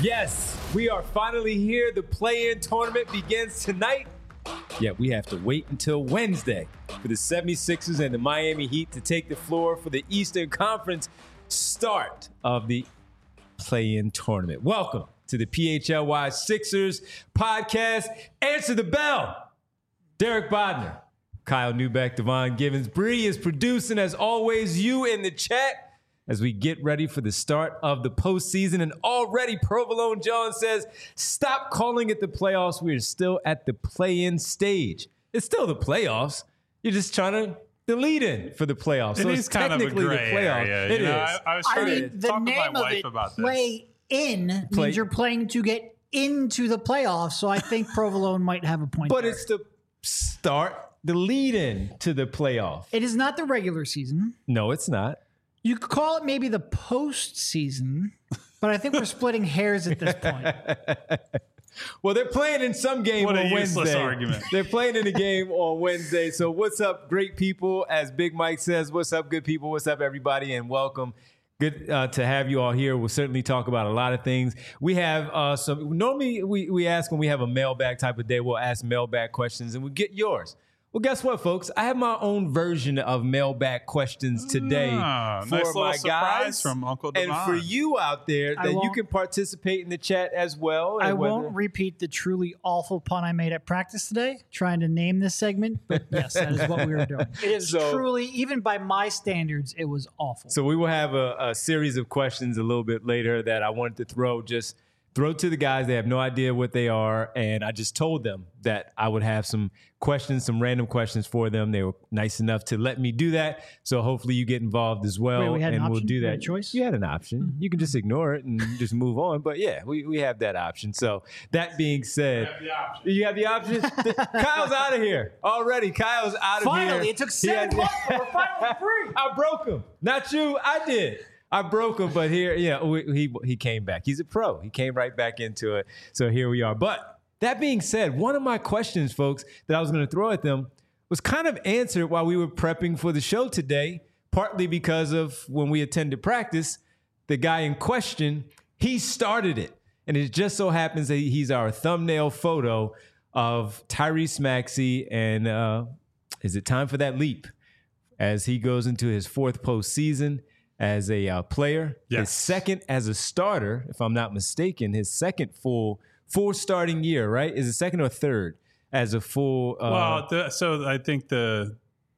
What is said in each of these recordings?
Yes, we are finally here. The play-in tournament begins tonight. Yet we have to wait until Wednesday for the 76ers and the Miami Heat to take the floor for the Eastern Conference start of the play-in tournament. Welcome to the PHLY Sixers podcast. Answer the bell. Derek Bodner, Kyle Newbeck, Devon Givens. Bree is producing, as always, you in the chat as we get ready for the start of the postseason. And already Provolone John says, stop calling it the playoffs. We're still at the play-in stage. It's still the playoffs. You're just trying to the lead-in for the playoffs. It so is it's kind technically of a gray the playoffs. area. It is. I was trying to talk with my wife about this. Play-in means you're playing to get into the playoffs, so I think Provolone might have a point But there. it's the start, the lead-in to the playoff. It is not the regular season. No, it's not. You could call it maybe the postseason, but I think we're splitting hairs at this point. Well, they're playing in some game What a on useless Wednesday. argument. They're playing in a game on Wednesday. So what's up, great people? As Big Mike says, what's up, good people? What's up, everybody? And welcome. Good to have you all here. We'll certainly talk about a lot of things. We have some, normally we ask when we have a mailbag type of day, we'll ask mailbag questions and we'll get yours. Well, guess what, folks? I have my own version of mailbag questions today for nice little my surprise guys from Uncle and Devon. for you out there that you won't- can participate in the chat as well. I and whether- won't repeat the truly awful pun I made at practice today, trying to name this segment, but yes, that is what we were doing. It is truly, even by my standards, it was awful. So we will have a series of questions a little bit later that I wanted to throw to the guys. They have no idea what they are. And I just told them that I would have some questions, some random questions for them. They were nice enough to let me do that. So hopefully you get involved as well. Wait, we had an and we'll option? do We that. had a choice? You had an option. Mm-hmm. You can just ignore it and just move on. But yeah, we have that option. So that being said, you have the option. Kyle's out of here already. Kyle's out of here. Finally, it took 7 months, but we're finally free. I broke him. Not you. I did. I broke him, but here, he came back. He's a pro. He came right back into it. So here we are. But that being said, one of my questions, folks, that I was going to throw at them was kind of answered while we were prepping for the show today, partly because of when we attended practice, the guy in question, he started it. And it just so happens that he's our thumbnail photo of Tyrese Maxey. And is it time for that leap as he goes into his fourth postseason as a player? Yes. His second as a starter, if I'm not mistaken, his second full starting year, right? Is it second or third as a full? So I think the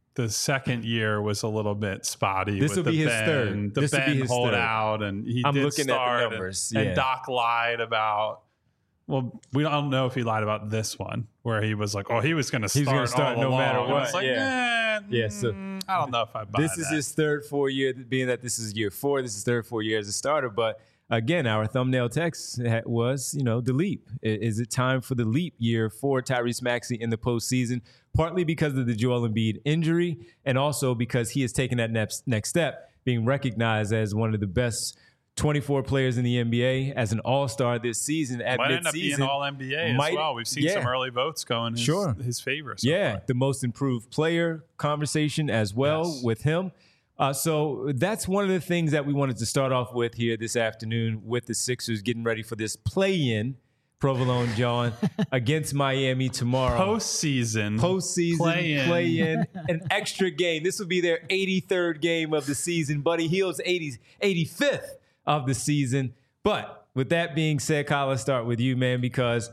second year was a little bit spotty. This with will be the his Ben, third. The This will be Ben his holdout, and he I'm did looking at the start. numbers, And yeah. Doc lied about. Well, we don't know if he lied about this one, where he was like, "Oh, he was going to start, gonna start all no along." matter And what, it's like, yeah. So I don't know if I buy This is that. his third full year, being that this is year 4. This is third full year as a starter. But again, our thumbnail text was, the leap. Is it time for the leap year for Tyrese Maxey in the postseason? Partly because of the Joel Embiid injury, and also because he has taken that next step, being recognized as one of the best 24 players in the NBA, as an all-star this season at Might midseason. end up being all NBA as well. We've seen some early votes go in his favor. So far. The most improved player conversation as well with him. So that's one of the things that we wanted to start off with here this afternoon with the Sixers getting ready for this play-in, Provolone John, against Miami tomorrow. Postseason, Play-in, an extra game. This will be their 83rd game of the season. Buddy Hield's 85th of the season. But with that being said, Kyle, let's start with you, man, because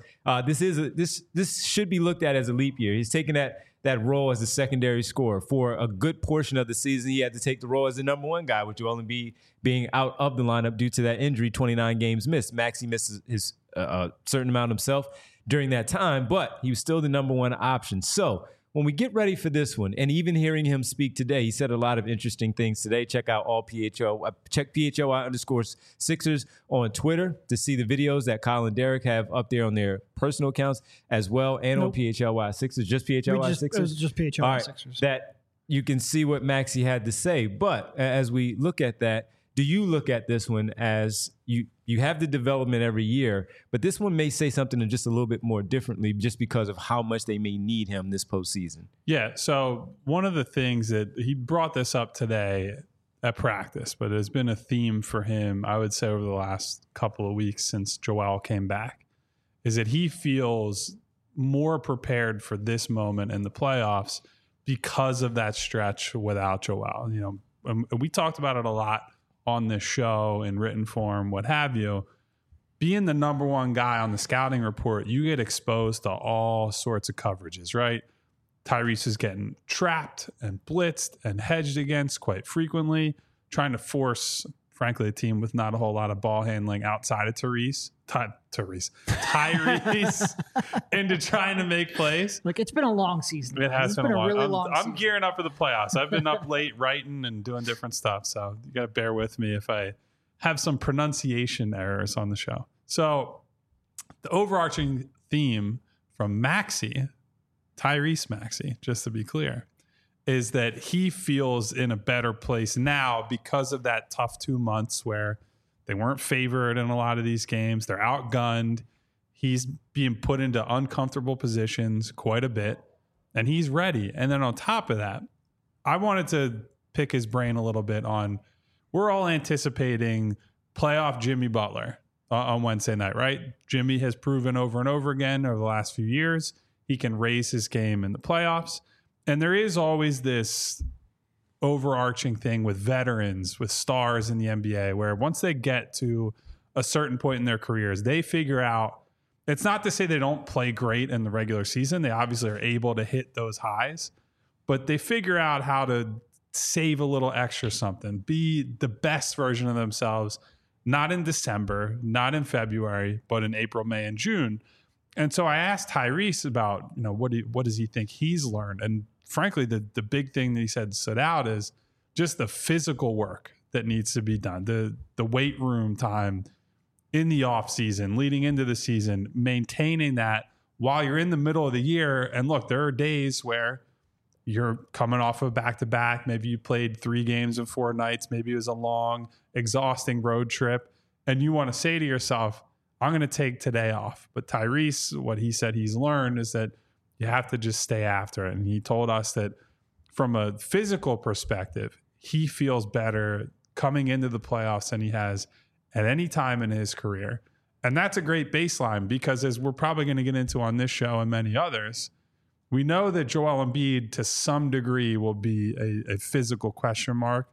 this should be looked at as a leap year. He's taking that role as a secondary scorer for a good portion of the season. He had to take the role as the number one guy, with Joel Embiid being out of the lineup due to that injury, 29 games missed. Maxey missed his certain amount himself during that time, but he was still the number one option. So when we get ready for this one, and even hearing him speak today, he said a lot of interesting things today. Check out check PHLY_Sixers on Twitter to see the videos that Kyle and Derek have up there on their personal accounts as well, and on PHLY Sixers, just PHLY Sixers. It was just PHLY All right, Sixers. that you can see what Maxey had to say. But as we look at that, do you look at this one as you have the development every year, but this one may say something just a little bit more differently just because of how much they may need him this postseason? Yeah. So one of the things that he brought this up today, at practice, but it has been a theme for him, I would say, over the last couple of weeks since Joel came back, is that he feels more prepared for this moment in the playoffs because of that stretch without Joel. You know, we talked about it a lot on this show in written form, what have you. Being the number one guy on the scouting report, you get exposed to all sorts of coverages, right? Tyrese is getting trapped and blitzed and hedged against quite frequently, trying to force, frankly, a team with not a whole lot of ball handling outside of Tyrese into trying to make plays. Look, it's been a long season. It has been a really long season. I'm gearing up for the playoffs. I've been up late writing and doing different stuff, so you got to bear with me if I have some pronunciation errors on the show. So the overarching theme from Tyrese Maxey, just to be clear, is that he feels in a better place now because of that tough 2 months where they weren't favored in a lot of these games. They're outgunned. He's being put into uncomfortable positions quite a bit, and he's ready. And then on top of that, I wanted to pick his brain a little bit on, we're all anticipating playoff Jimmy Butler on Wednesday night, right? Jimmy has proven over and over again over the last few years he can raise his game in the playoffs. And there is always this overarching thing with veterans, with stars in the NBA, where once they get to a certain point in their careers, they figure out, it's not to say they don't play great in the regular season. They obviously are able to hit those highs, but they figure out how to save a little extra something, be the best version of themselves, not in December, not in February, but in April, May, and June. And so I asked Tyrese about, what does he think he's learned? And frankly, the big thing that he said stood out is just the physical work that needs to be done, the weight room time in the off season, leading into the season, maintaining that while you're in the middle of the year. And look, there are days where you're coming off of back-to-back. Maybe you played 3 games in 4 nights. Maybe it was a long, exhausting road trip. And you want to say to yourself, I'm going to take today off. But Tyrese, what he said he's learned is that you have to just stay after it. And he told us that from a physical perspective, he feels better coming into the playoffs than he has at any time in his career. And that's a great baseline because, as we're probably going to get into on this show and many others, we know that Joel Embiid to some degree will be a physical question mark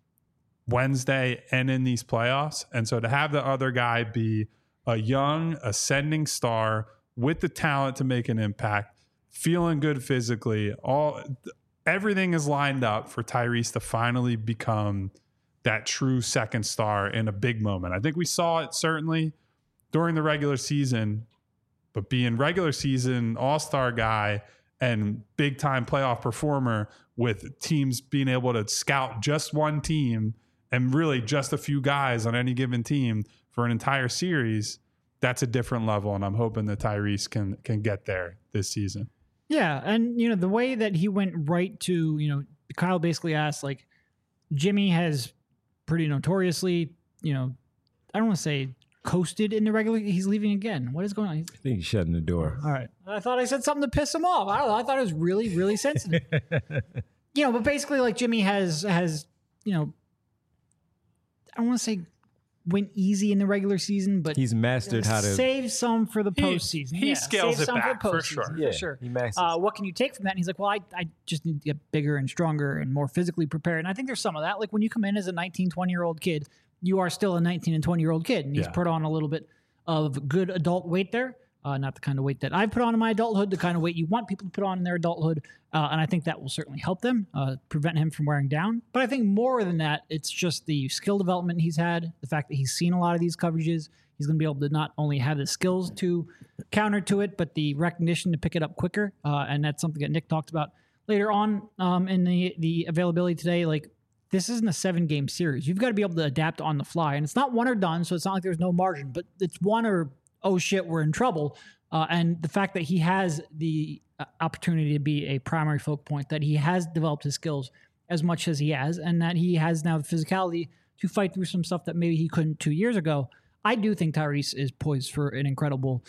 Wednesday and in these playoffs. And so to have the other guy be a young ascending star with the talent to make an impact, feeling good physically, everything is lined up for Tyrese to finally become that true second star in a big moment. I think we saw it certainly during the regular season, but being regular season all-star guy and big time playoff performer with teams being able to scout just one team and really just a few guys on any given team for an entire series, that's a different level. And I'm hoping that Tyrese can get there this season. Yeah. And, the way that he went right to, Kyle basically asked, like, Jimmy has pretty notoriously, I don't want to say coasted in the regular. He's leaving again. What is going on? I think he's shutting the door. All right. I thought I said something to piss him off. I don't know. I thought it was really, really sensitive. But basically, like, Jimmy has, I don't want to say went easy in the regular season, but he's mastered how to save some for the postseason. He scales it back for sure. For sure. He masters. What can you take from that? And he's like, well, I just need to get bigger and stronger and more physically prepared. And I think there's some of that. Like when you come in as a 19, 20-year-old kid, you are still a 19 and 20-year-old kid. And he's put on a little bit of good adult weight there. Not the kind of weight that I've put on in my adulthood, the kind of weight you want people to put on in their adulthood. And I think that will certainly help them, prevent him from wearing down. But I think more than that, it's just the skill development he's had, the fact that he's seen a lot of these coverages. He's going to be able to not only have the skills to counter to it, but the recognition to pick it up quicker. And that's something that Nick talked about later on in the availability today. Like, this isn't a 7-game series. You've got to be able to adapt on the fly. And it's not one or done, so it's not like there's no margin. But it's one or, oh shit, we're in trouble. And the fact that he has the opportunity to be a primary focal point, that he has developed his skills as much as he has, and that he has now the physicality to fight through some stuff that maybe he couldn't 2 years ago. I do think Tyrese is poised for an incredible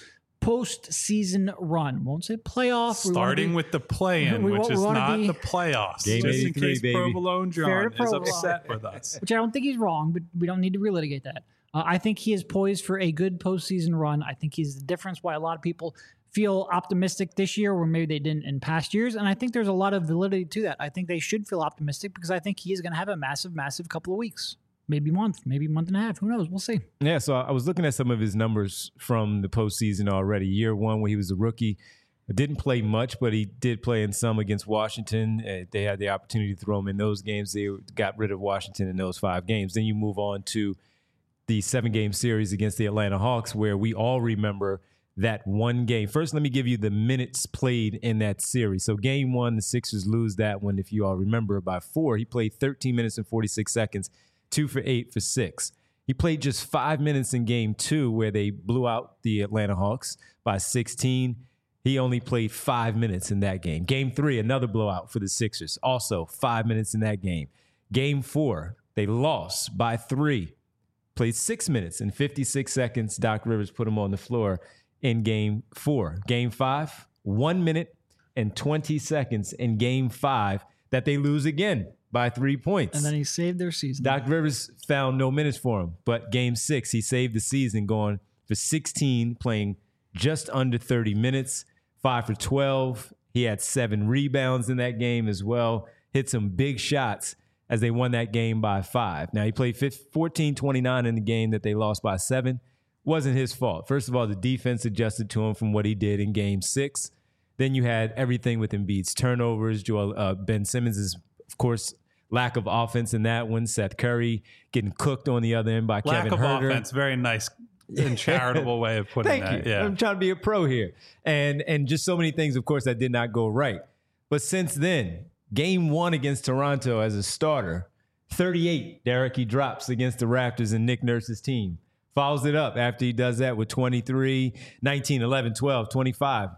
postseason run. Won't say playoff. Starting with the play-in, which is not the playoffs. Game just in 83, case baby. Provolone John is Provolone. upset with us. Which I don't think he's wrong, but we don't need to relitigate that. I think he is poised for a good postseason run. I think he's the difference why a lot of people feel optimistic this year where maybe they didn't in past years. And I think there's a lot of validity to that. I think they should feel optimistic because I think he is going to have a massive couple of weeks. Maybe month and a half. Who knows? We'll see. Yeah, so I was looking at some of his numbers from the postseason already. Year one, when he was a rookie, didn't play much, but he did play in some against Washington. They had the opportunity to throw him in those games. They got rid of Washington in those 5 games. Then you move on to the 7-game series against the Atlanta Hawks, where we all remember that one game. First, let me give you the minutes played in that series. So game 1, the Sixers lose that one, if you all remember, by 4. He played 13 minutes and 46 seconds. 2 for 8 for 6. He played just 5 minutes in game 2 where they blew out the Atlanta Hawks by 16. He only played 5 minutes in that game. Game 3, another blowout for the Sixers. Also 5 minutes in that game. Game 4, they lost by 3. Played 6 minutes and 56 seconds. Doc Rivers put him on the floor in game 4. Game 5, 1 minute and 20 seconds in game 5 that they lose again by 3 points. And then he saved their season. Doc Rivers found no minutes for him, but game 6, he saved the season going for 16, playing just under 30 minutes, 5 for 12. He had 7 rebounds in that game as well, hit some big shots as they won that game by 5. Now, he played 14-29 in the game that they lost by 7. Wasn't his fault. First of all, the defense adjusted to him from what he did in game 6. Then you had everything with Embiid's turnovers, Ben Simmons' of course, lack of offense in that one. Seth Curry getting cooked on the other end by Kevin Huerter. Lack of offense, very nice and charitable way of putting that. Thank you. Yeah. I'm trying to be a pro here. And just so many things, of course, that did not go right. But since then, game 1 against Toronto as a starter, 38, Derek, he drops against the Raptors and Nick Nurse's team. Follows it up after he does that with 23, 19, 11, 12, 25,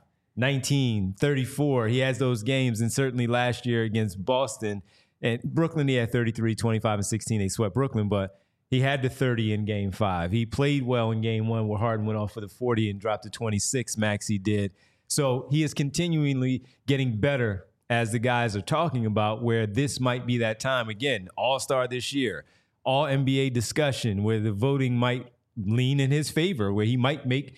19, 34. He has those games, and certainly last year against Boston and Brooklyn, he had 33, 25, and 16. They swept Brooklyn, but he had the 30 in game 5. He played well in game 1 where Harden went off for the 40 and dropped to 26. Maxey did. So he is continually getting better as the guys are talking about, where this might be that time. Again, all-star this year, all NBA discussion where the voting might lean in his favor, where he might make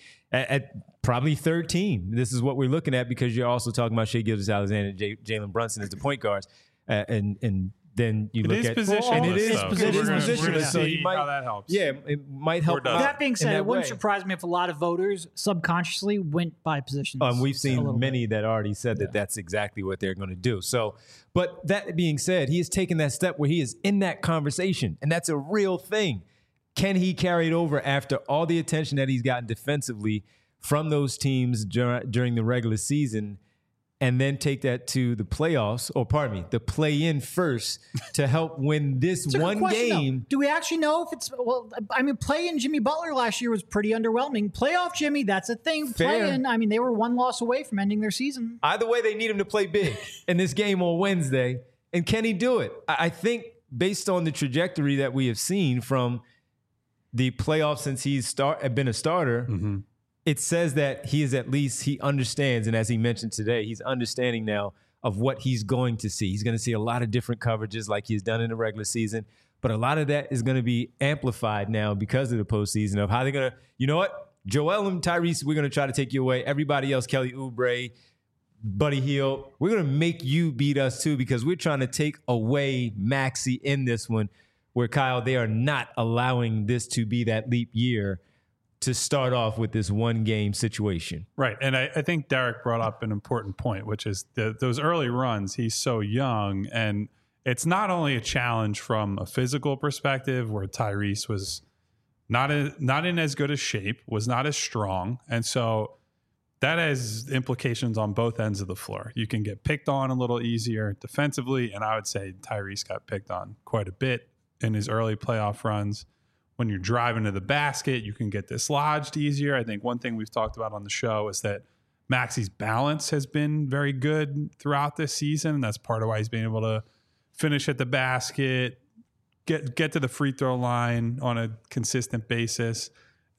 at probably third team. This is what we're looking at because you're also talking about Shai Gilgeous-Alexander and Jalen Brunson as the point guards. And then you look at position. And it is position. Position. So he might, how that helps. Yeah, it might help. That being said, it wouldn't way. surprise me if a lot of voters subconsciously went by positions. We've seen many that already said that that's exactly what they're going to do. So, but that being said, he has taken that step where he is in that conversation, and that's a real thing. Can he carry it over after all the attention that he's gotten defensively from those teams during the regular season, and then take that to the playoffs, or pardon me, the play-in first to help win this one game? Do we actually know if it's, well, I mean, play-in Jimmy Butler last year was pretty underwhelming. Playoff Jimmy, that's a thing. Fair. Play-in, I mean, they were 1 loss away from ending their season. Either way, they need him to play big in this game on Wednesday. And can he do it? I think based on the trajectory that we have seen from the playoffs since he's been a starter, it says that he understands. And as he mentioned today, he's understanding now of what he's going to see. He's going to see a lot of different coverages like he's done in the regular season. But a lot of that is going to be amplified now because of the postseason of how they're going to, you know what? Joel and Tyrese, we're going to try to take you away. Everybody else, Kelly Oubre, Buddy Hield, we're going to make you beat us too because we're trying to take away Maxey in this one where, Kyle, they are not allowing this to be that leap year to start off with this one-game situation. Right. And I think Derek brought up an important point, which is those early runs, he's so young. And it's not only a challenge from a physical perspective where Tyrese was not in as good a shape, was not as strong. And so that has implications on both ends of the floor. You can get picked on a little easier defensively. And I would say Tyrese got picked on quite a bit in his early playoff runs. When you're driving to the basket, you can get dislodged easier. I think one thing we've talked about on the show is that Maxey's balance has been very good throughout this season. And that's part of why he's been able to finish at the basket, get to the free throw line on a consistent basis.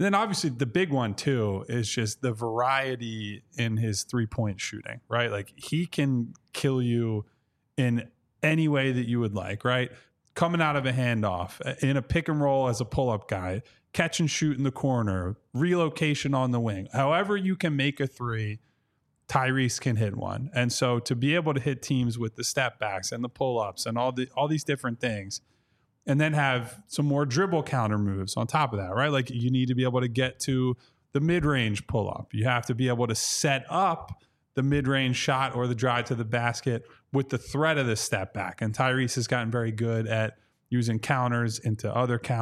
And then obviously the big one too is just the variety in his 3-point shooting, right? Like he can kill you in any way that you would like, right? Coming out of a handoff, in a pick and roll as a pull-up guy, catch and shoot in the corner, relocation on the wing. However you can make a three, Tyrese can hit one. And so to be able to hit teams with the step backs and the pull-ups and all these different things, and then have some more dribble counter moves on top of that, right? Like you need to be able to get to the mid-range pull-up. You have to be able to set up the mid-range shot or the drive to the basket with the threat of the step back. And Tyrese has gotten very good at using counters into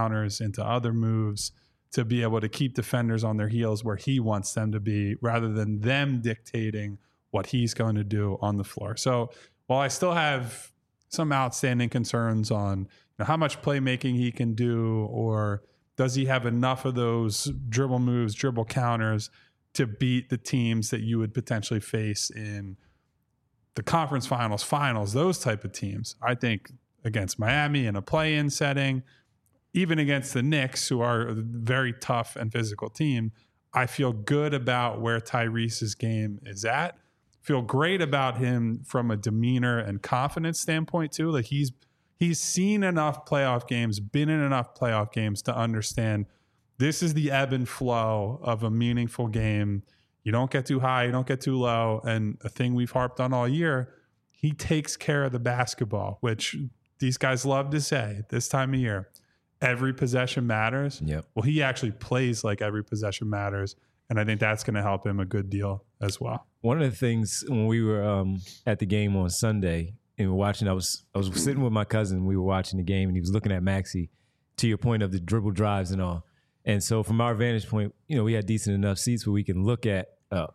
other moves to be able to keep defenders on their heels where he wants them to be rather than them dictating what he's going to do on the floor. So while I still have some outstanding concerns on how much playmaking he can do, or does he have enough of those dribble moves, dribble counters to beat the teams that you would potentially face in the conference finals, those type of teams. I think against Miami in a play-in setting, even against the Knicks, who are a very tough and physical team, I feel good about where Tyrese's game is at. Feel great about him from a demeanor and confidence standpoint too. Like he's seen enough playoff games, been in enough playoff games to understand this is the ebb and flow of a meaningful game. You don't get too high, you don't get too low. And a thing we've harped on all year, he takes care of the basketball, which these guys love to say this time of year. Every possession matters. Yep. Well, he actually plays like every possession matters. And I think that's going to help him a good deal as well. One of the things when we were at the game on Sunday, and we were watching, I was sitting with my cousin. We were watching the game, and he was looking at Maxey. To your point of the dribble drives and all, and so from our vantage point, we had decent enough seats where we can look at, at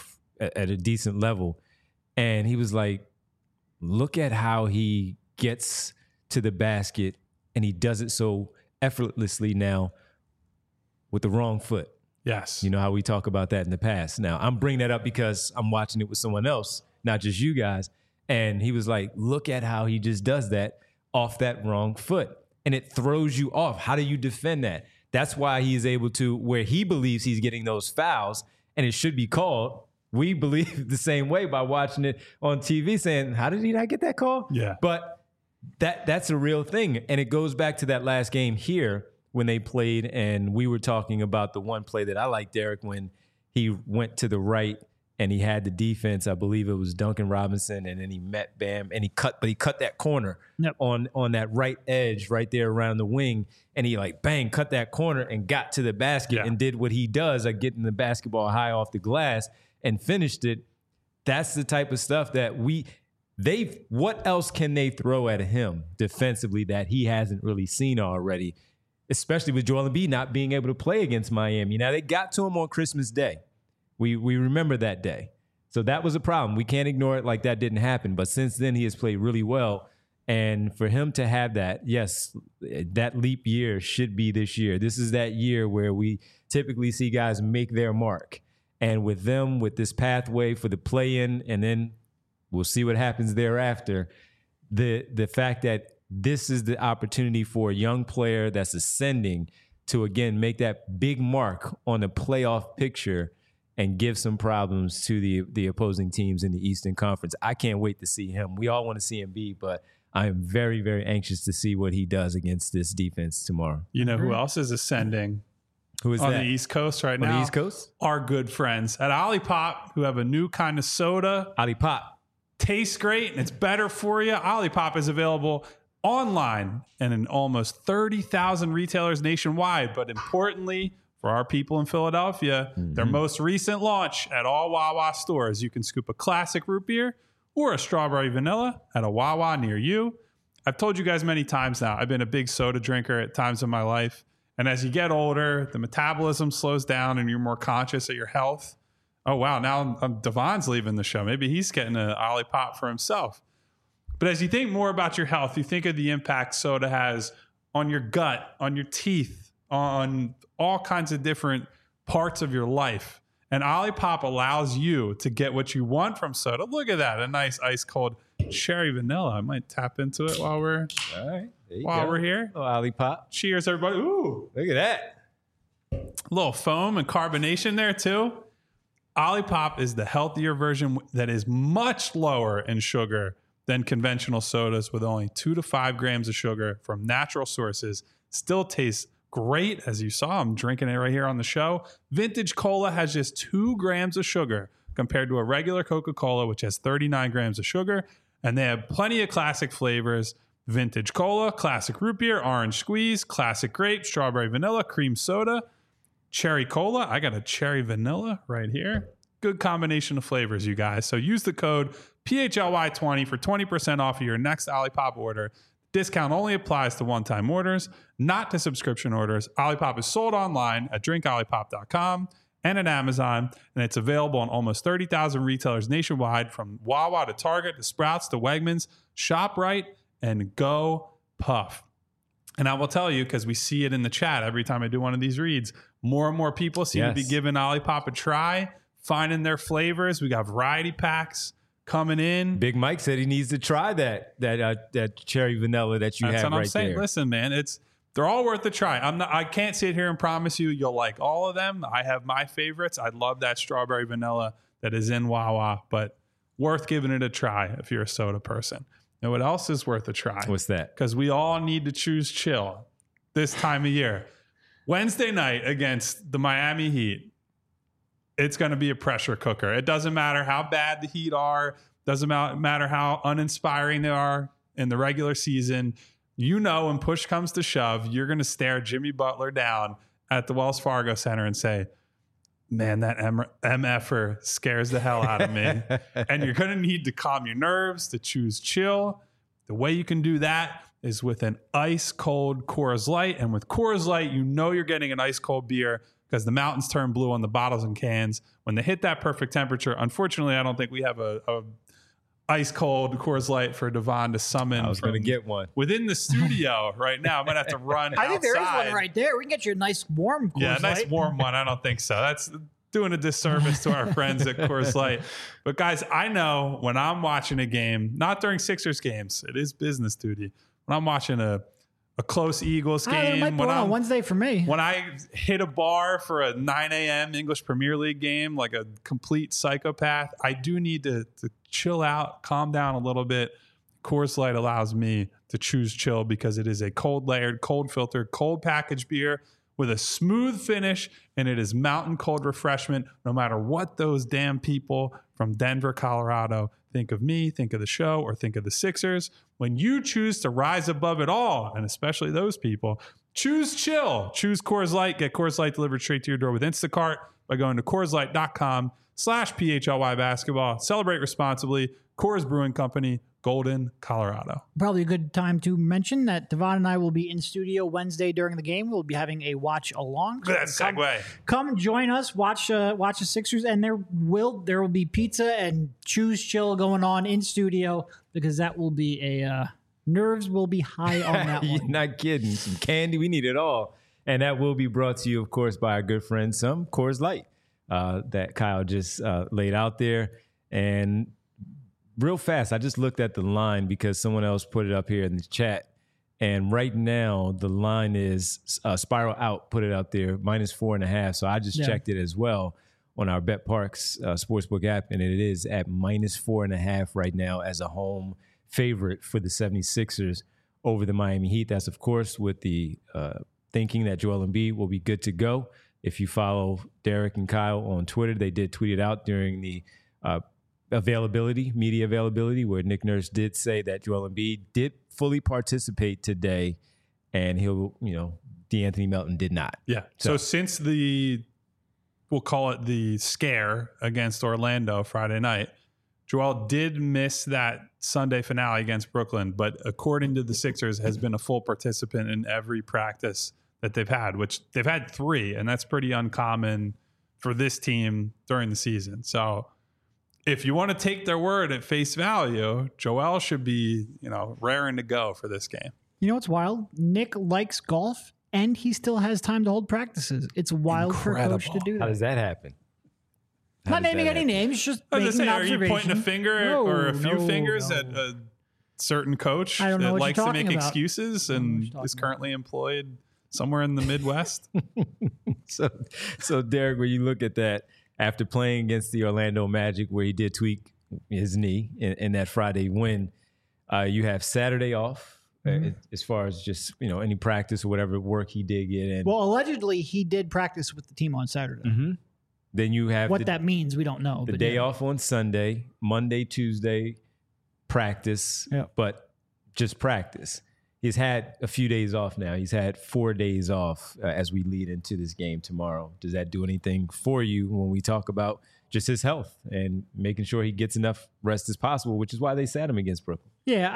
a decent level. And he was like, "Look at how he gets to the basket, and he does it so effortlessly now with the wrong foot." Yes, you know how we talk about that in the past. Now I'm bringing that up because I'm watching it with someone else, not just you guys. And he was like, look at how he just does that off that wrong foot. And it throws you off. How do you defend that? That's why he is able to, where he believes he's getting those fouls, and it should be called. We believe the same way by watching it on TV saying, how did he not get that call? Yeah. But that's a real thing. And it goes back to that last game here when they played, and we were talking about the one play that I like, Derek, when he went to the right and he had the defense. I believe it was Duncan Robinson, and then he met Bam, and he cut that corner on that right edge right there around the wing, and he cut that corner and got to the basket and did what he does, like getting the basketball high off the glass and finished it. That's the type of stuff that what else can they throw at him defensively that he hasn't really seen already, especially with Joel Embiid not being able to play against Miami. Now, they got to him on Christmas Day. We remember that day. So that was a problem. We can't ignore it like that didn't happen. But since then, he has played really well. And for him to have that, yes, that leap year should be this year. This is that year where we typically see guys make their mark. And with them, with this pathway for the play-in, and then we'll see what happens thereafter, the fact that this is the opportunity for a young player that's ascending to, again, make that big mark on the playoff picture and give some problems to the opposing teams in the Eastern Conference. I can't wait to see him. We all want to see him be, but I am very, very anxious to see what he does against this defense tomorrow. You know who else is ascending? Who is on that? The East Coast right now? On the East Coast? Our good friends at Olipop, who have a new kind of soda. Olipop. Tastes great, and it's better for you. Olipop is available online and in almost 30,000 retailers nationwide, but importantly, for our people in Philadelphia, their most recent launch at all Wawa stores. You can scoop a classic root beer or a strawberry vanilla at a Wawa near you. I've told you guys many times now, I've been a big soda drinker at times in my life. And as you get older, the metabolism slows down and you're more conscious of your health. Oh, wow, now Devon's leaving the show. Maybe he's getting an Olipop for himself. But as you think more about your health, you think of the impact soda has on your gut, on your teeth, on all kinds of different parts of your life. And Olipop allows you to get what you want from soda. Look at that, a nice ice cold cherry vanilla. I might tap into it while we're all right, we're here. Oh, Olipop. Cheers, everybody. Ooh, look at that. little foam and carbonation there too. Olipop is the healthier version that is much lower in sugar than conventional sodas, with only 2 to 5 grams of sugar from natural sources. Still tastes great, as you saw. I'm drinking it right here on the show. Vintage Cola has just 2 grams of sugar compared to a regular Coca-Cola, which has 39 grams of sugar. And they have plenty of classic flavors. Vintage Cola, classic root beer, orange squeeze, classic grape, strawberry vanilla, cream soda, cherry cola. I got a cherry vanilla right here. Good combination of flavors, you guys. So use the code PHLY20 for 20% off of your next Olipop order. Discount only applies to one-time orders, not to subscription orders. Olipop is sold online at drinkolipop.com and at Amazon, and it's available in almost 30,000 retailers nationwide, from Wawa to Target to Sprouts to Wegmans. ShopRite and Go Puff. And I will tell you, because we see it in the chat every time I do one of these reads, more and more people seem to be giving Olipop a try, finding their flavors. We got variety packs coming in. Big Mike said he needs to try that cherry vanilla that you have right there. That's what I'm saying. Listen, man, they're all worth a try. I can't sit here and promise you'll like all of them. I have my favorites. I love that strawberry vanilla that is in Wawa, but worth giving it a try if you're a soda person. And what else is worth a try? What's that? Because we all need to choose chill this time of year. Wednesday night against the Miami Heat, it's going to be a pressure cooker. It doesn't matter how bad the Heat are. Doesn't matter how uninspiring they are in the regular season. You know, when push comes to shove, you're going to stare Jimmy Butler down at the Wells Fargo Center and say, man, that MFer scares the hell out of me. And you're going to need to calm your nerves, to choose chill. The way you can do that is with an ice cold Coors Light. And with Coors Light, you know you're getting an ice cold beer because the mountains turn blue on the bottles and cans when they hit that perfect temperature. Unfortunately, I don't think we have a ice cold Coors Light for Devon to summon. I was going to get one within the studio right now. I'm going to have to run I think there is one right there. We can get you a nice warm Coors Light. Yeah, a nice warm one. I don't think so. That's doing a disservice to our friends at Coors Light. But guys, I know when I'm watching a game, not during Sixers games, it is business duty. When I'm watching a close Eagles game, it might be on Wednesday for me. When I hit a bar for a 9 a.m. English Premier League game, like a complete psychopath, I do need to chill out, calm down a little bit. Coors Light allows me to choose chill because it is a cold layered, cold filtered, cold packaged beer with a smooth finish, and it is mountain cold refreshment no matter what those damn people from Denver, Colorado think of me, think of the show, or think of the Sixers. When you choose to rise above it all, and especially those people, choose chill. Choose Coors Light. Get Coors Light delivered straight to your door with Instacart by going to CoorsLight.com/PHLY basketball. Celebrate responsibly. Coors Brewing Company, Golden, Colorado. Probably a good time to mention that Devon and I will be in studio Wednesday during the game. We'll be having a watch along. Look at that segue. Come join us, watch the Sixers, and there will be pizza and choose chill going on in studio, because that will be nerves will be high on that one. You're not kidding. Some candy, we need it all. And that will be brought to you, of course, by our good friend, some Coors Light that Kyle just laid out there. And real fast, I just looked at the line because someone else put it up here in the chat. And right now, the line is Spiral Out, put it up there, -4.5. So I just checked it as well on our BetParks Sportsbook app, and it is at -4.5 right now as a home favorite for the 76ers over the Miami Heat. That's, of course, with the thinking that Joel Embiid will be good to go. If you follow Derek and Kyle on Twitter, they did tweet it out during the media availability, where Nick Nurse did say that Joel Embiid did fully participate today, and DeAnthony Melton did not. Yeah. So since we'll call it the scare against Orlando Friday night, Joel did miss that Sunday finale against Brooklyn, but according to the Sixers, has been a full participant in every practice that they've had, which they've had 3, and that's pretty uncommon for this team during the season. So if you want to take their word at face value, Joel should be, raring to go for this game. You know what's wild? Nick likes golf, and he still has time to hold practices. It's wild for a coach to do that. How does that happen? Not naming any names, just making an observation. Are you pointing a finger or a few fingers at a certain coach that likes to make excuses and is currently employed somewhere in the Midwest. So Derek, when you look at that, after playing against the Orlando Magic, where he did tweak his knee in that Friday win, you have Saturday off as far as just, any practice or whatever work he did get in. Well, allegedly, he did practice with the team on Saturday. Mm-hmm. Then you have what that means, we don't know. The day off on Sunday, Monday, Tuesday, practice, but just practice. He's had a few days off now. He's had 4 days off as we lead into this game tomorrow. Does that do anything for you when we talk about just his health and making sure he gets enough rest as possible, which is why they sat him against Brooklyn? Yeah,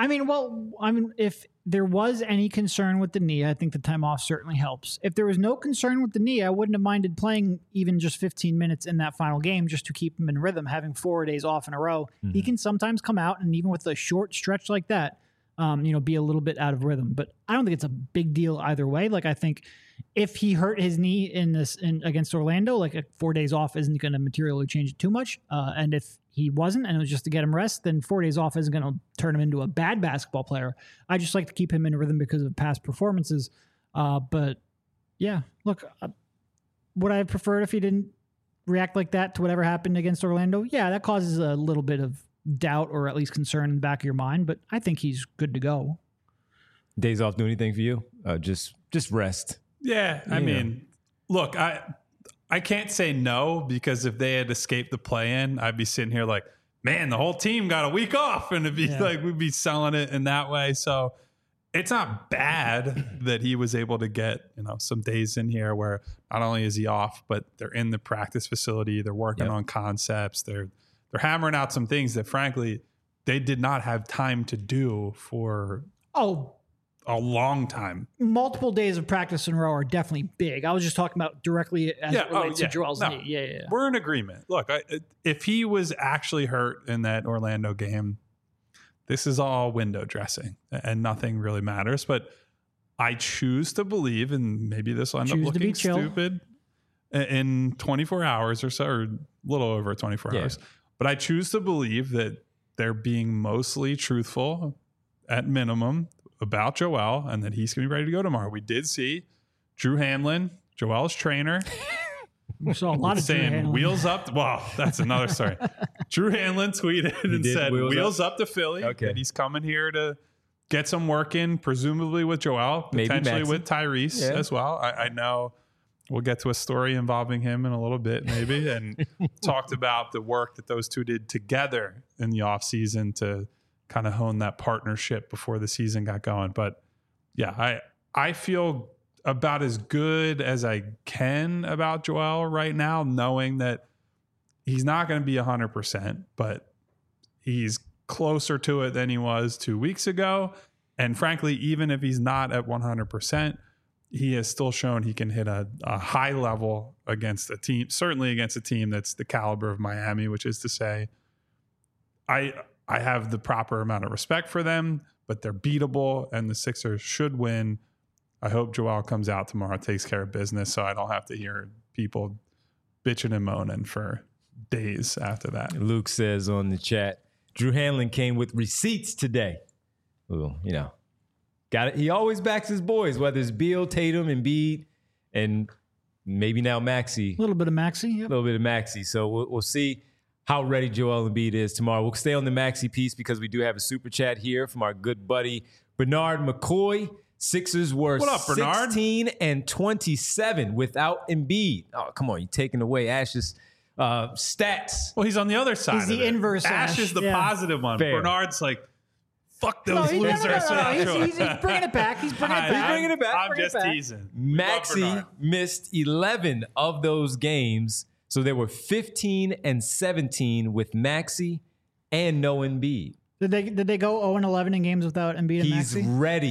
if there was any concern with the knee, I think the time off certainly helps. If there was no concern with the knee, I wouldn't have minded playing even just 15 minutes in that final game just to keep him in rhythm. Having 4 days off in a row, he can sometimes come out, and even with a short stretch like that, be a little bit out of rhythm. But I don't think it's a big deal either way. Like, I think if he hurt his knee against Orlando, like 4 days off isn't going to materially change it too much. And if he wasn't, and it was just to get him rest, then 4 days off isn't going to turn him into a bad basketball player. I just like to keep him in rhythm because of past performances. But yeah, look, would I have preferred if he didn't react like that to whatever happened against Orlando? Yeah, that causes a little bit of doubt or at least concern in the back of your mind, but I think he's good to go. Days off do anything for you? Just rest. Yeah, I mean, look, I can't say no, because if they had escaped the play-in, I'd be sitting here like, man, the whole team got a week off, and it'd be like we'd be selling it in that way. So it's not bad that he was able to get some days in here where not only is he off, but they're in the practice facility, they're working on concepts, they're hammering out some things that frankly they did not have time to do for a long time. Multiple days of practice in a row are definitely big. I was just talking about directly as it relates to Joel's knee. Yeah. We're in agreement. Look, if he was actually hurt in that Orlando game, this is all window dressing and nothing really matters. But I choose to believe, and maybe this will end up looking stupid in 24 hours or so, or a little over 24 hours. But I choose to believe that they're being mostly truthful at minimum about Joel, and that he's going to be ready to go tomorrow. We did see Drew Hanlon, Joel's trainer, we saw a lot of saying wheels up. Well, that's another story. Drew Hanlon tweeted and said wheels up to Philly. Okay. That he's coming here to get some work in, presumably with Joel, potentially with Tyrese as well. I know we'll get to a story involving him in a little bit, maybe, and talked about the work that those two did together in the offseason to kind of hone that partnership before the season got going. But yeah, I feel about as good as I can about Joel right now, knowing that he's not going to be 100%, but he's closer to it than he was 2 weeks ago. And frankly, even if he's not at 100%, he has still shown he can hit a high level against a team, certainly against a team that's the caliber of Miami, which is to say, I have the proper amount of respect for them, but they're beatable and the Sixers should win. I hope Joel comes out tomorrow, takes care of business, so I don't have to hear people bitching and moaning for days after that. Luke says on the chat, Drew Hanlon came with receipts today. Ooh, got it. He always backs his boys, whether it's Beal, Tatum, Embiid, and maybe now Maxey. A little bit of Maxey. Yep. A little bit of Maxey. So we'll see how ready Joel Embiid is tomorrow. We'll stay on the Maxey piece because we do have a super chat here from our good buddy Bernard McCoy. Sixers were 16-27 without Embiid. Oh, come on. You're taking away Ash's stats. Well, he's on the other side. He's the inverse. Ash is the positive one. Fair. Bernard's like, fuck those losers. He's bringing it back. He's bringing it back. I'm just teasing. Maxey missed 11 of those games. So there were 15-17 with Maxey and no Embiid. Did they go 0-11 in games without Embiid and Maxey?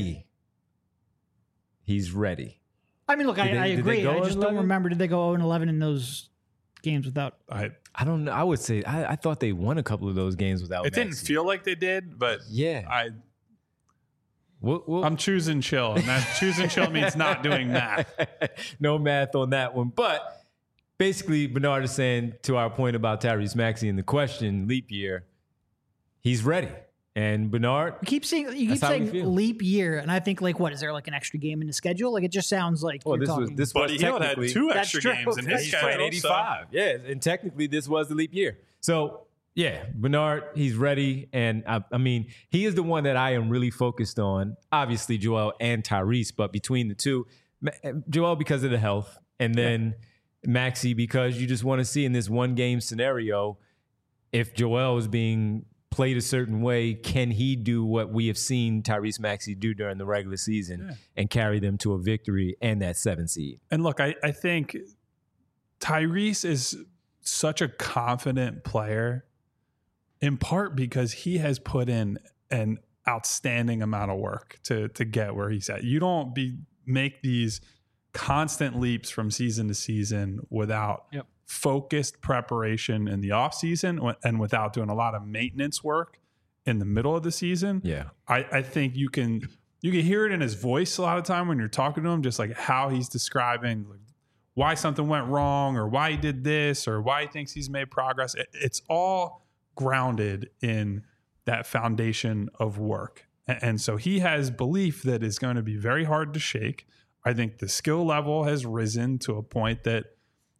He's ready. I mean, look, I agree. I just don't remember. Did they go 0-11 in those games without? I don't know. I would say I thought they won a couple of those games without It Maxey. didn't feel like they did, but yeah. I'm choosing chill, and that choosing chill means not doing math. No math on that one. But basically, Bernard is saying, to our point about Tyrese Maxey and the question, leap year, he's ready. And Bernard, you keep saying leap year, and I think like, what is there like an extra game in the schedule? Like it just sounds like this was Buddy Hield had 2 extra games in his schedule. Playing 85. So. Yeah, and technically this was the leap year. So yeah, Bernard, he's ready, and I mean, he is the one that I am really focused on. Obviously, Joel and Tyrese, but between the two, Joel because of the health, and then Maxey because you just want to see in this one game scenario if Joel is being played a certain way, can he do what we have seen Tyrese Maxey do during the regular season and carry them to a victory and that 7 seed? And look, I think Tyrese is such a confident player in part because he has put in an outstanding amount of work to get where he's at. You don't make these constant leaps from season to season without focused preparation in the off season and without doing a lot of maintenance work in the middle of the season. Yeah. I think you can hear it in his voice a lot of time when you're talking to him, just like how he's describing like why something went wrong or why he did this or why he thinks he's made progress. It's all grounded in that foundation of work. And so he has belief that is going to be very hard to shake. I think the skill level has risen to a point that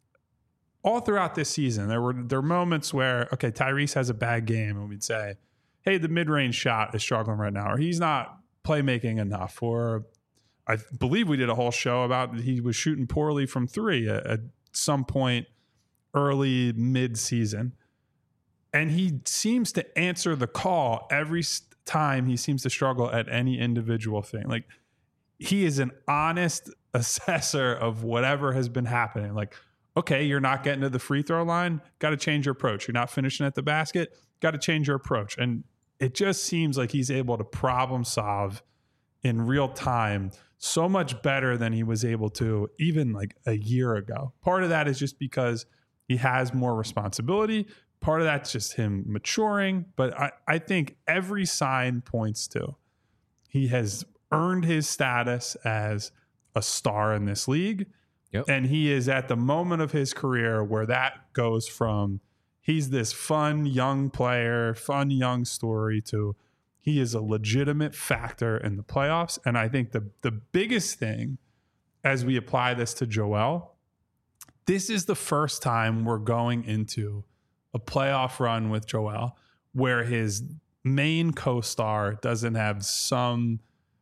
all throughout this season, there were moments where, okay, Tyrese has a bad game and we'd say, hey, the mid-range shot is struggling right now, or he's not playmaking enough, or I believe we did a whole show about he was shooting poorly from 3 at some point early mid-season. And he seems to answer the call every time he seems to struggle at any individual thing. Like he is an honest assessor of whatever has been happening. Like, okay, you're not getting to the free throw line. Got to change your approach. You're not finishing at the basket. Got to change your approach. And it just seems like he's able to problem solve in real time so much better than he was able to even like a year ago. Part of that is just because he has more responsibility. Part of that's just him maturing. But I think every sign points to he has earned his status as a star in this league. Yep. And he is at the moment of his career where that goes from he's this fun young player, fun young story to he is a legitimate factor in the playoffs. And I think the biggest thing as we apply this to Joel, this is the first time we're going into a playoff run with Joel where his main co-star doesn't have some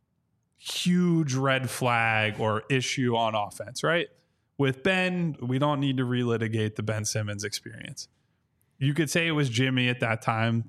huge red flag or issue on offense, right? With Ben, we don't need to relitigate the Ben Simmons experience. You could say it was Jimmy at that time.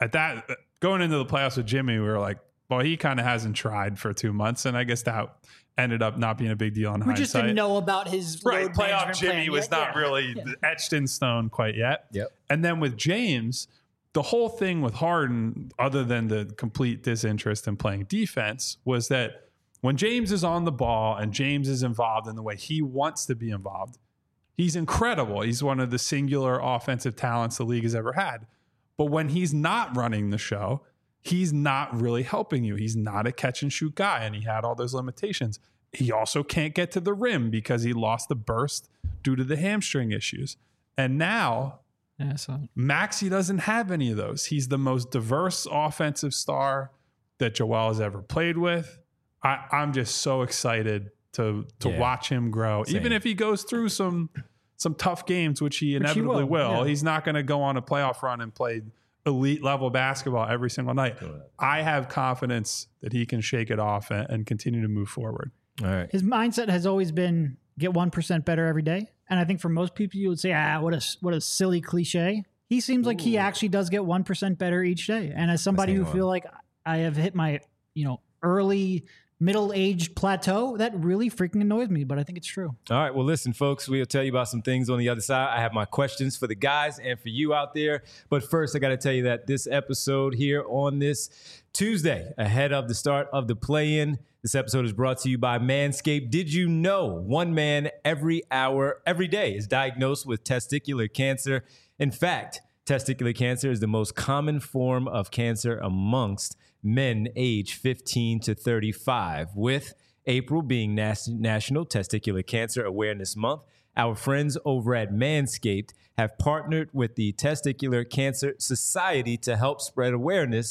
Going into the playoffs with Jimmy, we were like, well, he kind of hasn't tried for 2 months, and I guess that ended up not being a big deal in hindsight. We just didn't know about his right. Playoff Jimmy was not really etched in stone quite yet. Yep. And then with James, the whole thing with Harden, other than the complete disinterest in playing defense, was that when James is on the ball and James is involved in the way he wants to be involved, he's incredible. He's one of the singular offensive talents the league has ever had. But when he's not running the show, he's not really helping you. He's not a catch and shoot guy, and he had all those limitations. He also can't get to the rim because he lost the burst due to the hamstring issues. And now Maxey doesn't have any of those. He's the most diverse offensive star that Joel has ever played with. I'm just so excited to watch him grow. Same. Even if he goes through some tough games, which he inevitably will. Yeah. He's not going to go on a playoff run and play elite level basketball every single night. I have confidence that he can shake it off and continue to move forward. All right. His mindset has always been get 1% better every day. And I think for most people, you would say, what a silly cliche. He seems like he actually does get 1% better each day. And as somebody who feel like I have hit my, early middle-aged plateau, that really freaking annoys me, but I think it's true. All right. Well, listen, folks, we'll tell you about some things on the other side. I have my questions for the guys and for you out there. But first, I got to tell you that this episode here on this Tuesday, ahead of the start of the play-in, this episode is brought to you by Manscaped. Did you know 1 man every hour, every day is diagnosed with testicular cancer? In fact, testicular cancer is the most common form of cancer amongst men age 15 to 35. With April being National Testicular Cancer Awareness Month, our friends over at Manscaped have partnered with the Testicular Cancer Society to help spread awareness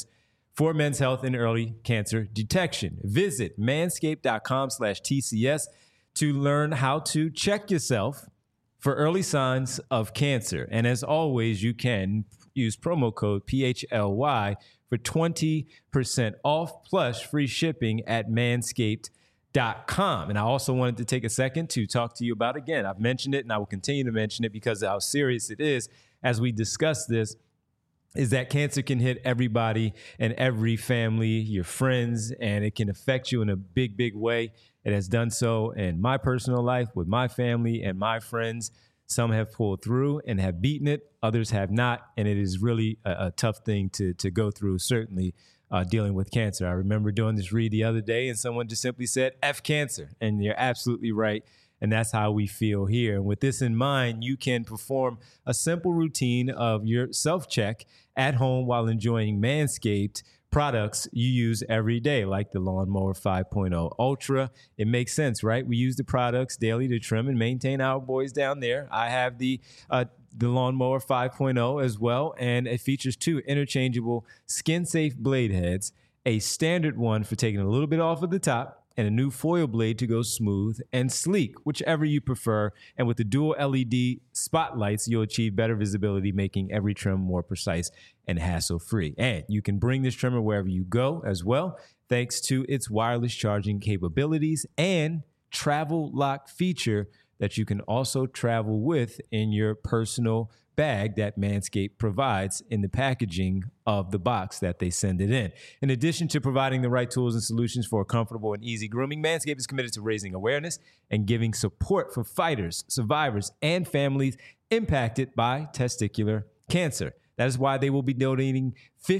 for men's health and early cancer detection. Visit manscaped.com/TCS to learn how to check yourself for early signs of cancer. And as always, you can use promo code PHLY for 20% off plus free shipping at manscaped.com. And I also wanted to take a second to talk to you about, again, I've mentioned it and I will continue to mention it because of how serious it is as we discuss this, is that cancer can hit everybody and every family, your friends, and it can affect you in a big, big way. It has done so in my personal life with my family and my friends. Some have pulled through and have beaten it. Others have not. And it is really a tough thing to go through, certainly dealing with cancer. I remember doing this read the other day and someone just simply said, F cancer. And you're absolutely right. And that's how we feel here. And with this in mind, you can perform a simple routine of your self-check at home while enjoying Manscaped products you use every day, like the Lawnmower 5.0 Ultra. It makes sense, right? We use the products daily to trim and maintain our boys down there. I have the Lawnmower 5.0 as well, and it features 2 interchangeable skin-safe blade heads, a standard one for taking a little bit off of the top, and a new foil blade to go smooth and sleek, whichever you prefer. And with the dual LED spotlights, you'll achieve better visibility, making every trim more precise and hassle-free. And you can bring this trimmer wherever you go as well, thanks to its wireless charging capabilities and travel lock feature that you can also travel with in your personal bag that Manscaped provides in the packaging of the box that they send it in. In addition to providing the right tools and solutions for a comfortable and easy grooming, Manscaped is committed to raising awareness and giving support for fighters, survivors, and families impacted by testicular cancer. That is why they will be donating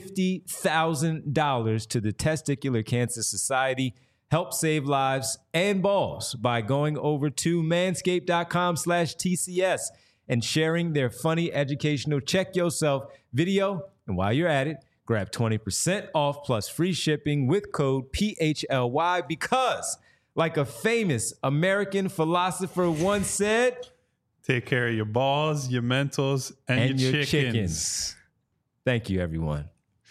$50,000 to the Testicular Cancer Society. Help save lives and balls by going over to manscaped.com/TCS and sharing their funny educational check yourself video. And while you're at it, grab 20% off plus free shipping with code PHLY because, like a famous American philosopher once said, take care of your balls, your mentals, and your chickens. Thank you, everyone.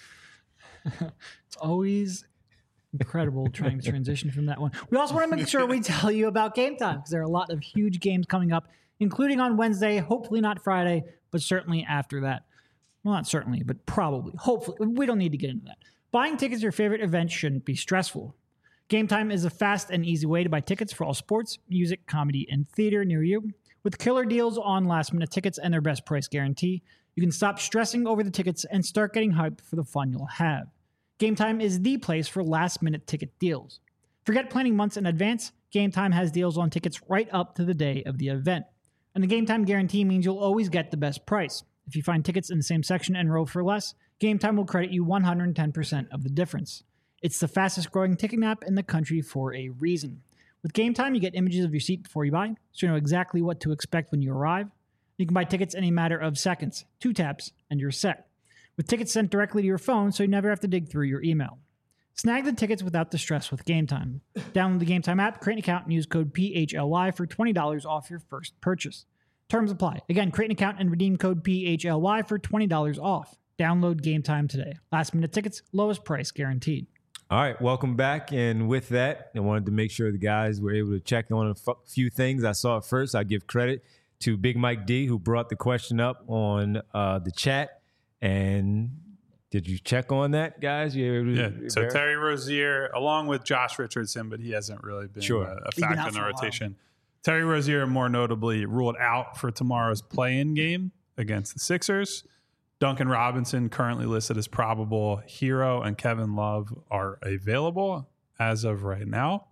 It's always incredible trying to transition from that one. We also want to make sure we tell you about Game Time because there are a lot of huge games coming up, including on Wednesday, hopefully not Friday, but certainly after that. Well, not certainly, but probably. Hopefully. We don't need to get into that. Buying tickets to your favorite event shouldn't be stressful. Game Time is a fast and easy way to buy tickets for all sports, music, comedy, and theater near you. With killer deals on last-minute tickets and their best price guarantee, you can stop stressing over the tickets and start getting hyped for the fun you'll have. Game Time is the place for last-minute ticket deals. Forget planning months in advance. Game Time has deals on tickets right up to the day of the event. And the Game Time guarantee means you'll always get the best price. If you find tickets in the same section and row for less, Game Time will credit you 110% of the difference. It's the fastest growing ticketing app in the country for a reason. With Game Time, you get images of your seat before you buy, so you know exactly what to expect when you arrive. You can buy tickets in a matter of seconds, 2 taps, and you're set. With tickets sent directly to your phone, so you never have to dig through your email. Snag the tickets without the stress with Game Time. Download the Game Time app, create an account, and use code PHLY for $20 off your first purchase. Terms apply. Again, create an account and redeem code PHLY for $20 off. Download Game Time today. Last minute tickets, lowest price guaranteed. All right, welcome back. And with that, I wanted to make sure the guys were able to check on a few things. I saw it first. I give credit to Big Mike D, who brought the question up on the chat. And did you check on that, guys? Yeah. So Terry Rozier, along with Josh Richardson, but he hasn't really been a factor in the rotation. Terry Rozier, more notably, ruled out for tomorrow's play-in game against the Sixers. Duncan Robinson, currently listed as probable. Hero and Kevin Love are available as of right now.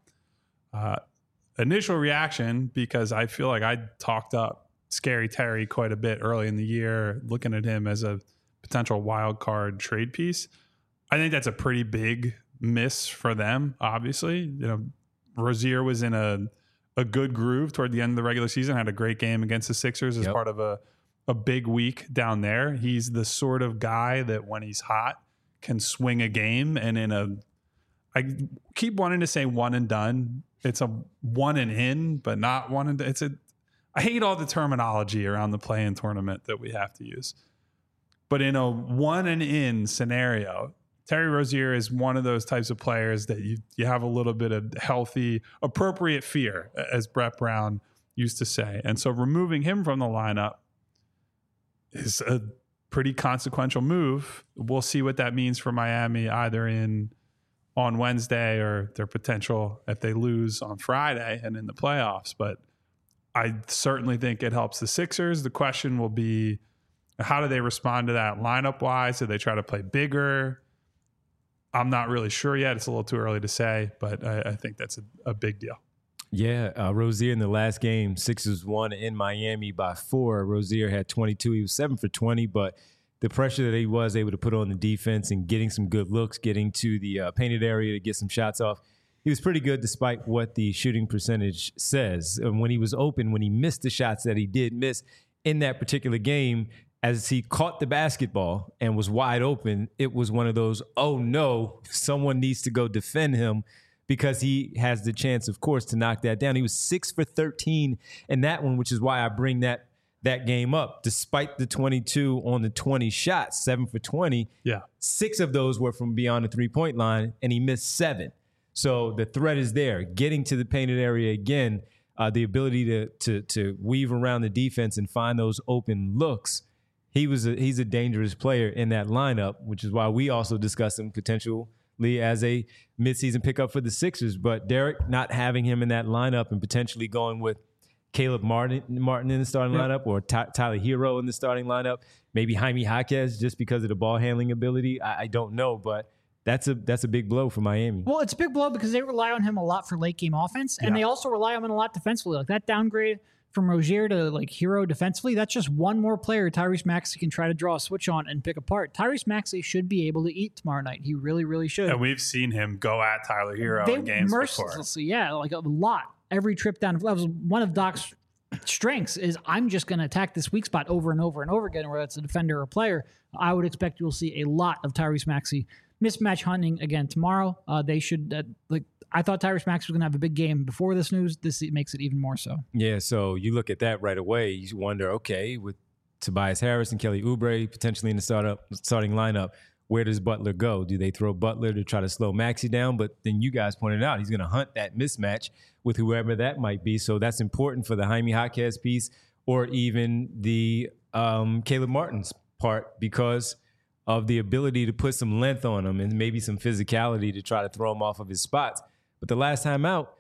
Initial reaction, because I feel like I talked up Scary Terry quite a bit early in the year, looking at him as a potential wild card trade piece. I think that's a pretty big miss for them, obviously. You know, Rozier was in a good groove toward the end of the regular season, had a great game against the Sixers as part of a big week down there. He's the sort of guy that when he's hot can swing a game. And I keep wanting to say one and done. It's a one and in, but not one and done. I hate all the terminology around the play-in tournament that we have to use. But in a one and in scenario, Terry Rozier is one of those types of players that you have a little bit of healthy, appropriate fear, as Brett Brown used to say. And so removing him from the lineup is a pretty consequential move. We'll see what that means for Miami either on Wednesday or their potential if they lose on Friday and in the playoffs. But I certainly think it helps the Sixers. The question will be, how do they respond to that lineup-wise? Do they try to play bigger? I'm not really sure yet. It's a little too early to say, but I think that's a big deal. Yeah, Rozier in the last game, Sixers won in Miami by 4. Rozier had 22. He was 7 for 20, but the pressure that he was able to put on the defense and getting some good looks, getting to the painted area to get some shots off, he was pretty good despite what the shooting percentage says. And when he was open, when he missed the shots that he did miss in that particular game, as he caught the basketball and was wide open, it was one of those, oh no, someone needs to go defend him, because he has the chance, of course, to knock that down. He was 6 for 13 in that one, which is why I bring that game up. Despite the 22 on the 20 shots, 7 for 20, 6 of those were from beyond the three-point line, and he missed 7. So the threat is there. Getting to the painted area again, the ability to weave around the defense and find those open looks. He's a dangerous player in that lineup, which is why we also discuss him potentially as a midseason pickup for the Sixers. But Derek, not having him in that lineup and potentially going with Caleb Martin in the starting lineup, or Tyler Hero in the starting lineup, maybe Jaime Jaquez just because of the ball handling ability. I don't know, but that's a big blow for Miami. Well, it's a big blow because they rely on him a lot for late game offense, and they also rely on him a lot defensively. Like that downgrade from Rozier to like Hero defensively, that's just one more player Tyrese Maxey can try to draw a switch on and pick apart. Tyrese Maxey should be able to eat tomorrow night. He really, really should. And we've seen him go at Tyler Hero in games mercilessly, before. Like a lot. Every trip down. That was one of Doc's strengths, is I'm just going to attack this weak spot over and over and over again, whether it's a defender or a player. I would expect you'll see a lot of Tyrese Maxey mismatch hunting again tomorrow. They should I thought Tyrese Maxey was going to have a big game before this news. This makes it even more so. Yeah, so you look at that right away. You wonder, okay, with Tobias Harris and Kelly Oubre potentially in the starting lineup, where does Butler go? Do they throw Butler to try to slow Maxey down? But then you guys pointed out he's going to hunt that mismatch with whoever that might be. So that's important for the Jaime Jaquez piece, or even the Caleb Martin's part, because of the ability to put some length on him and maybe some physicality to try to throw him off of his spots. But the last time out,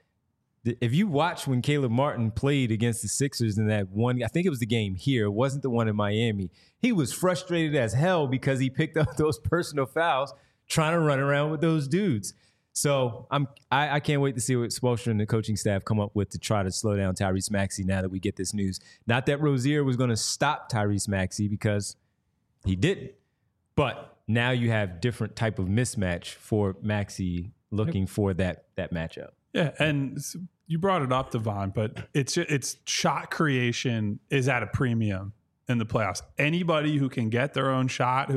if you watch when Caleb Martin played against the Sixers in that one, I think it was the game here, it wasn't the one in Miami, he was frustrated as hell because he picked up those personal fouls trying to run around with those dudes. So I can't wait to see what Spoelstra and the coaching staff come up with to try to slow down Tyrese Maxey now that we get this news. Not that Rozier was going to stop Tyrese Maxey, because he didn't. But now you have different type of mismatch for Maxey looking for that matchup. Yeah, and you brought it up, Devon, but it's shot creation is at a premium in the playoffs. Anybody who can get their own shot,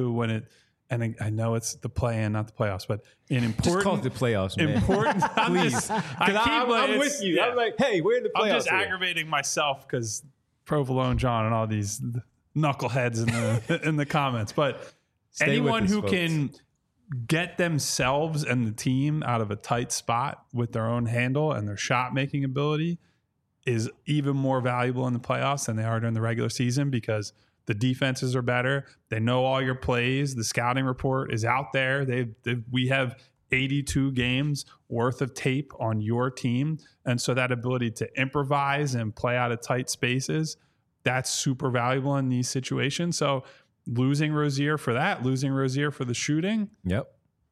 and I know it's the play-in, not the playoffs, but in important... Just call it the playoffs, man. Important... Please. I'm with you. Yeah. I'm like, hey, we're in the playoffs. I'm just aggravating myself because Provolone John and all these knuckleheads in the comments. But anyone who can get themselves and the team out of a tight spot with their own handle and their shot-making ability is even more valuable in the playoffs than they are during the regular season, because the defenses are better. They know all your plays. The scouting report is out there. We have 82 games worth of tape on your team. And so that ability to improvise and play out of tight spaces, that's super valuable in these situations. So losing Rozier for that, losing Rozier for the shooting. Yep.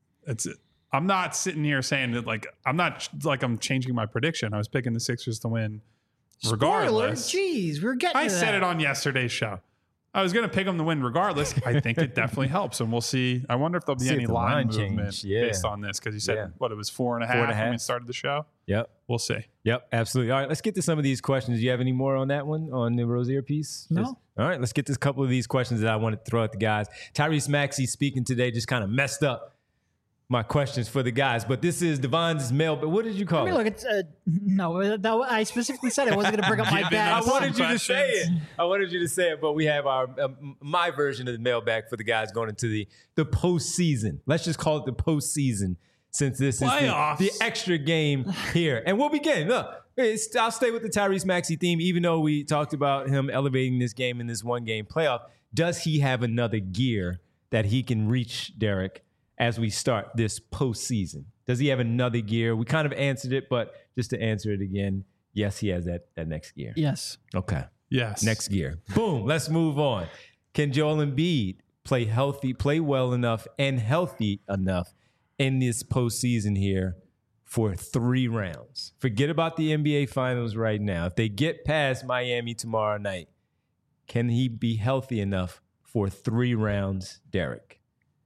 I'm not sitting here saying that I'm changing my prediction. I was picking the Sixers to win regardless. Spoiler, geez, we're getting I said it on yesterday's show. I was going to pick them to win regardless. I think it definitely helps, and we'll see. I wonder if there'll be any line movement based on this, because you said it was 4.5 when we started the show. Yep. We'll see. Yep, absolutely. All right, let's get to some of these questions. Do you have any more on that one, on the Rozier piece? No. All right, let's get to a couple of these questions that I want to throw at the guys. Tyrese Maxey speaking today just kind of messed up my questions for the guys. But this is Devon's mail. But what did you call I mean, it? look, it's no. I specifically said I wasn't going to bring up my Giving bad. us I wanted you to questions. say it. I wanted you to say it, but we have our my version of the mailbag for the guys going into the postseason. Let's just call it the postseason, since this Playoffs. is the extra game here. And we'll begin. Look, I'll stay with the Tyrese Maxey theme, even though we talked about him elevating this game in this one-game playoff. Does he have another gear that he can reach, Derek, as we start this postseason? Does he have another gear? We kind of answered it, but just to answer it again, yes, he has that next gear. Yes. Okay. Yes. Next gear. Boom. Let's move on. Can Joel Embiid play well enough and healthy enough in this postseason here for 3 rounds? Forget about the NBA Finals right now. If they get past Miami tomorrow night, can he be healthy enough for 3 rounds, Derek?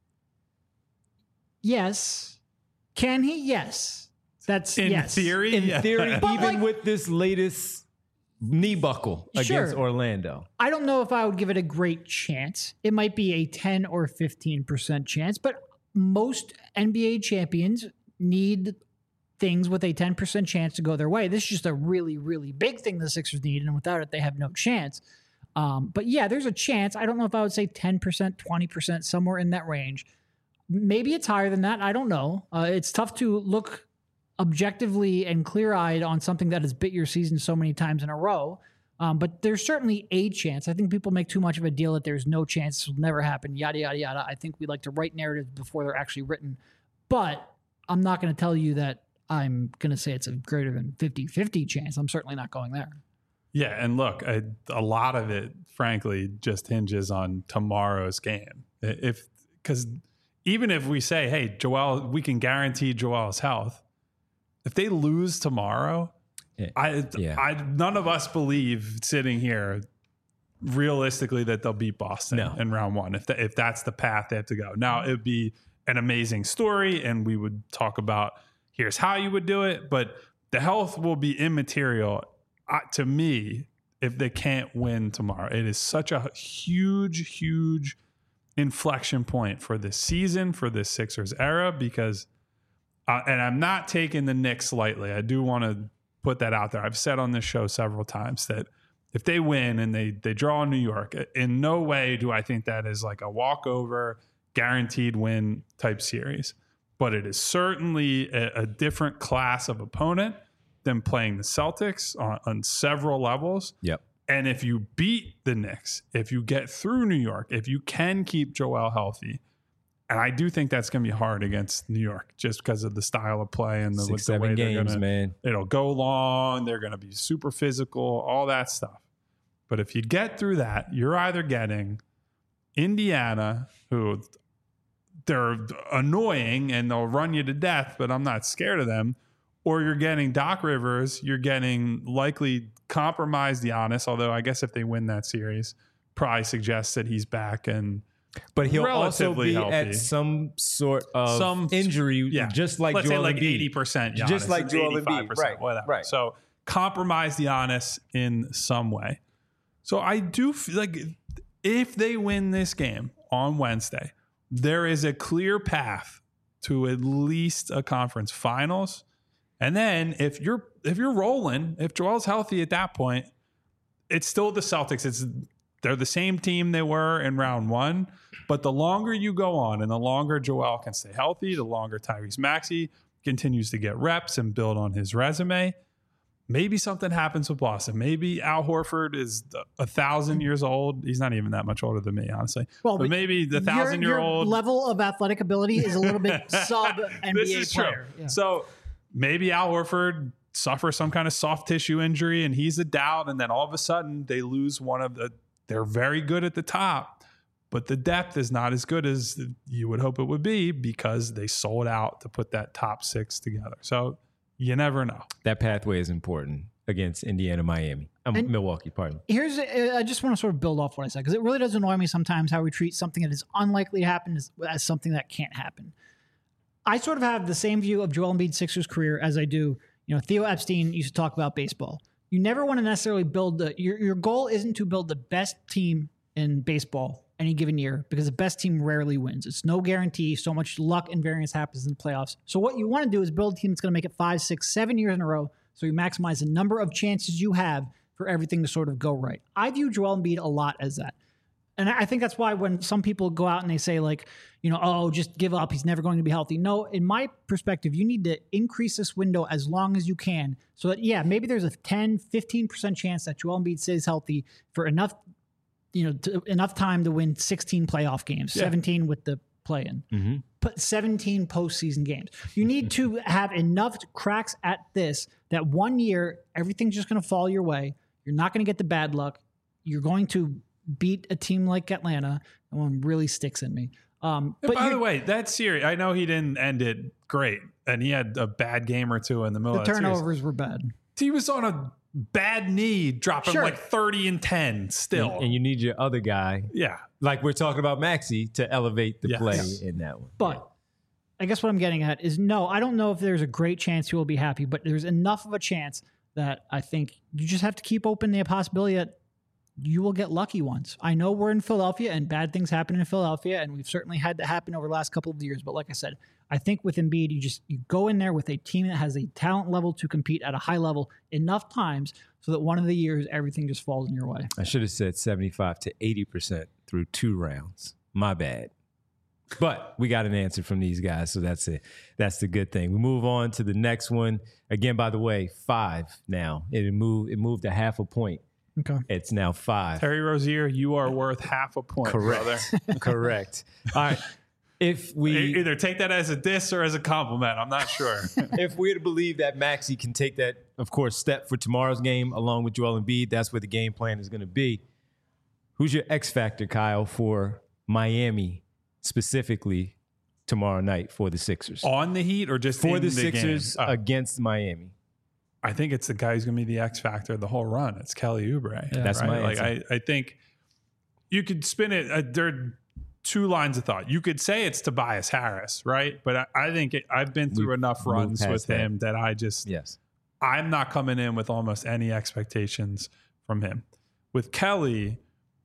Yes. Can he? Yes. That's In yes. theory. In theory, But even like- with this latest knee buckle against Sure. Orlando. I don't know if I would give it a great chance. It might be a 10 or 15% chance, but most NBA champions need things with a 10% chance to go their way. This is just a really, really big thing the Sixers need, and without it, they have no chance. But yeah, there's a chance. I don't know if I would say 10%, 20%, somewhere in that range. Maybe it's higher than that. I don't know. It's tough to look objectively and clear-eyed on something that has bit your season so many times in a row. But there's certainly a chance. I think people make too much of a deal that there's no chance, this will never happen, yada, yada, yada. I think we like to write narratives before they're actually written. But I'm not going to tell you that I'm going to say it's a greater than 50-50 chance. I'm certainly not going there. Yeah, and look, a lot of it, frankly, just hinges on tomorrow's game. Because even if we say, hey, Joel, we can guarantee Joel's health, if they lose tomorrow, none of us believe sitting here realistically that they'll beat Boston in round 1. If that's the path they have to go. Now, it would be an amazing story, and we would talk about here's how you would do it, but the health will be immaterial to me if they can't win tomorrow. It is such a huge, huge inflection point for this season, for this Sixers era, because, and I'm not taking the Knicks lightly. I do want to put that out there. I've said on this show several times that if they win and they draw in New York, in no way do I think that is like a walkover, guaranteed win type series. But it is certainly a different class of opponent than playing the Celtics on several levels. Yep. And if you beat the Knicks, if you get through New York, if you can keep Joel healthy, and I do think that's going to be hard against New York just because of the style of play and the 6-7 way games, man. It'll go long. They're going to be super physical, all that stuff. But if you get through that, you're either getting Indiana, who they're annoying and they'll run you to death, but I'm not scared of them, or you're getting Doc Rivers, you're getting likely compromised Giannis, although I guess if they win that series, probably suggests that he's back and but he'll also relatively be healthy. at some sort of injury, just like let's Joel say like Embiid. 80% Giannis, Just like Joel 85%, Embiid. Right, whatever. right. So compromise Giannis in some way. So I do feel like if they win this game on Wednesday, there is a clear path to at least a conference finals. And then if you're rolling, if Joel's healthy at that point, it's still the Celtics. They're the same team they were in round 1. But the longer you go on and the longer Joel can stay healthy, the longer Tyrese Maxey continues to get reps and build on his resume. Maybe something happens with Boston. Maybe Al Horford is 1,000 years old. He's not even that much older than me, honestly. Well, but maybe the 1,000-year-old your level of athletic ability is a little bit sub NBA this is player. true. Yeah. So maybe Al Horford suffers some kind of soft tissue injury and he's a doubt, and then all of a sudden they lose one of the. They're very good at the top, but the depth is not as good as you would hope it would be because they sold out to put that top 6 together. So you never know. That pathway is important against Indiana, Miami, Milwaukee. Pardon. I just want to sort of build off what I said, because it really does annoy me sometimes how we treat something that is unlikely to happen as something that can't happen. I sort of have the same view of Joel Embiid's Sixers career as I do, Theo Epstein used to talk about baseball. You never want to necessarily build your goal isn't to build the best team in baseball any given year because the best team rarely wins. It's no guarantee. So much luck and variance happens in the playoffs. So what you want to do is build a team that's going to make it 5, 6, 7 years in a row. So you maximize the number of chances you have for everything to sort of go right. I view Joel Embiid a lot as that. And I think that's why when some people go out and they say like, oh, just give up, he's never going to be healthy. No, in my perspective, you need to increase this window as long as you can so that, maybe there's a 10, 15% chance that Joel Embiid stays healthy for enough, enough time to win 16 playoff games, 17 with the play-in, put 17 postseason games. You need to have enough cracks at this that 1 year, everything's just going to fall your way. You're not going to get the bad luck. You're going to beat a team like Atlanta. That one really sticks in me. But by the way, that series, I know he didn't end it great, and he had a bad game or two in the middle of the series. The turnovers were bad. He was on a bad knee, dropping like 30 and 10 still. And you need your other guy. Yeah. Like we're talking about Maxey to elevate the play in that one. But I guess what I'm getting at is no, I don't know if there's a great chance he will be happy, but there's enough of a chance that I think you just have to keep open the possibility that you will get lucky once. I know we're in Philadelphia and bad things happen in Philadelphia, and we've certainly had that happen over the last couple of years. But like I said, I think with Embiid, you go in there with a team that has a talent level to compete at a high level enough times so that one of the years everything just falls in your way. I should have said 75 to 80% through 2 rounds. My bad. But we got an answer from these guys, so that's it. That's the good thing. We move on to the next one. Again, by the way, 5 now. It moved a half a point. Okay. It's now 5. Terry Rozier, you are worth half a point, brother. Correct. All right. If we either take that as a diss or as a compliment, I'm not sure. If we're to believe that Maxey can take that, of course, step for tomorrow's game along with Joel Embiid, that's where the game plan is going to be. Who's your X factor, Kyle, for Miami specifically tomorrow night for the Sixers? On the Heat or just for in the Sixers against Miami? I think it's the guy who's going to be the X factor the whole run. It's Kelly Oubre. Yeah, that's my answer. I think you could spin it. There are 2 lines of thought. You could say it's Tobias Harris, right? But I think I've been through enough runs with him that I'm not coming in with almost any expectations from him. With Kelly,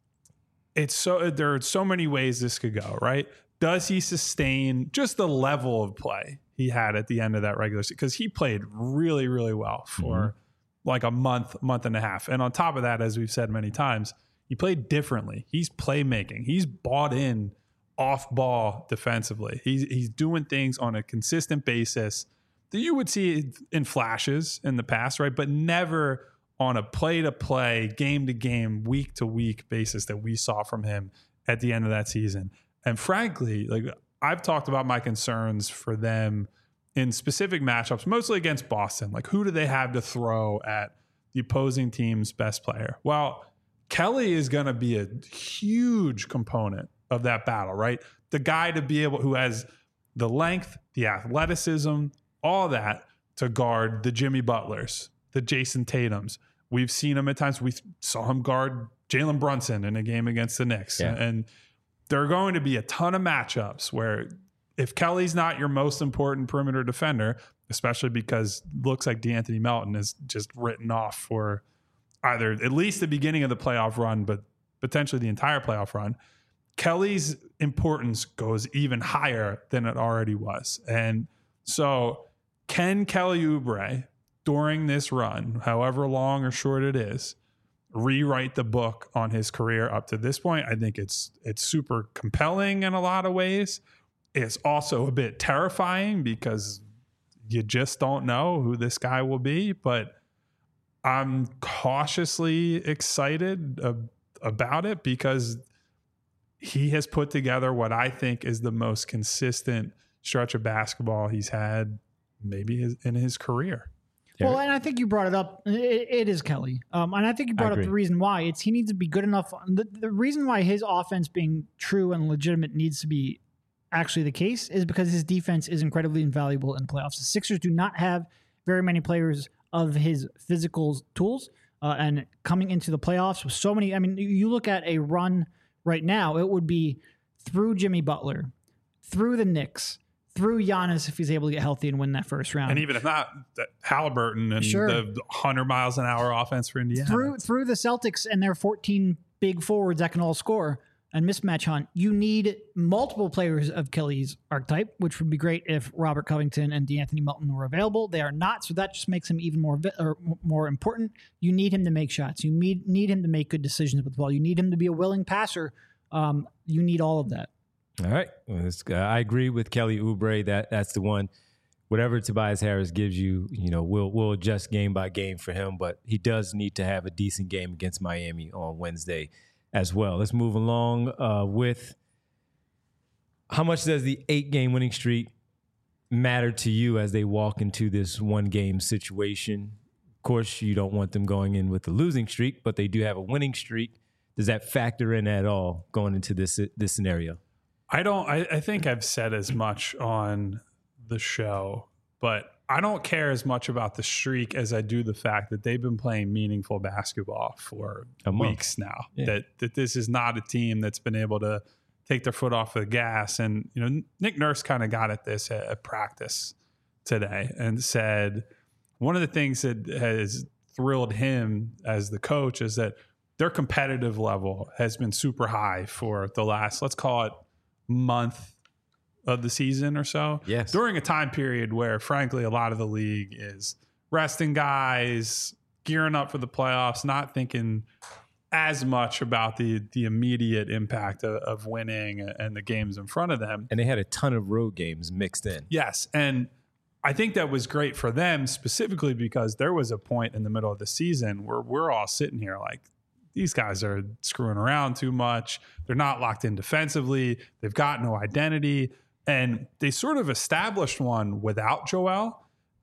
there are so many ways this could go, right? Does he sustain just the level of play he had at the end of that regular season? Because he played really, really well for like a month and a half. And on top of that, as we've said many times, he played differently. He's playmaking. He's bought in off ball defensively. He's doing things on a consistent basis that you would see in flashes in the past, right? But never on a play-to-play, game-to-game, week-to-week basis that we saw from him at the end of that season. And frankly, like I've talked about my concerns for them in specific matchups, mostly against Boston. Like, who do they have to throw at the opposing team's best player? Well, Kelly is going to be a huge component of that battle, right? The guy to be able, who has the length, the athleticism, all that to guard the Jimmy Butlers, the Jason Tatums. We've seen him at times. We saw him guard Jalen Brunson in a game against the Knicks. Yeah. And there are going to be a ton of matchups where if Kelly's not your most important perimeter defender, especially because it looks like DeAnthony Melton is just written off for either at least the beginning of the playoff run, but potentially the entire playoff run, Kelly's importance goes even higher than it already was. And so can Kelly Oubre during this run, however long or short it is, rewrite the book on his career up to this point? I think it's super compelling in a lot of ways. It's also a bit terrifying because you just don't know who this guy will be, but I'm cautiously excited about it because he has put together what I think is the most consistent stretch of basketball he's had maybe in his career. Well, and I think you brought it up. It is Kelly. And I think you brought up the reason why. He needs to be good enough. The reason why his offense being true and legitimate needs to be actually the case is because his defense is incredibly invaluable in playoffs. The Sixers do not have very many players of his physical tools. And coming into the playoffs with so many, I mean, you look at a run right now, it would be through Jimmy Butler, through the Knicks, through Giannis if he's able to get healthy and win that first round. And even if not, Halliburton and the 100 miles an hour offense for Indiana. Through the Celtics and their 14 big forwards that can all score. and mismatch hunt, you need multiple players of Kelly's archetype, which would be great if Robert Covington and DeAnthony Melton were available. They are not, so that just makes him even more important. You need him to make shots. You need him to make good decisions with the ball. You need him to be a willing passer. You need all of that. All right. Well, I agree with Kelly Oubre. That's the one. Whatever Tobias Harris gives you, we'll adjust game by game for him, but he does need to have a decent game against Miami on Wednesday as well. Let's move along with how much does the 8-game winning streak matter to you as they walk into this 1-game situation? Of course, you don't want them going in with a losing streak, but they do have a winning streak. Does that factor in at all going into this scenario? I think I've said as much on the show, but I don't care as much about the streak as I do the fact that they've been playing meaningful basketball for weeks now. Yeah. That this is not a team that's been able to take their foot off the gas. And Nick Nurse kind of got at this at practice today and said one of the things that has thrilled him as the coach is that their competitive level has been super high for the last, let's call it, month of the season or so. Yes. During a time period where, frankly, a lot of the league is resting guys, gearing up for the playoffs, not thinking as much about the immediate impact of winning and the games in front of them. And they had a ton of road games mixed in. Yes. And I think that was great for them specifically because there was a point in the middle of the season where we're all sitting here like, these guys are screwing around too much. They're not locked in defensively. They've got no identity. And they sort of established one without Joel.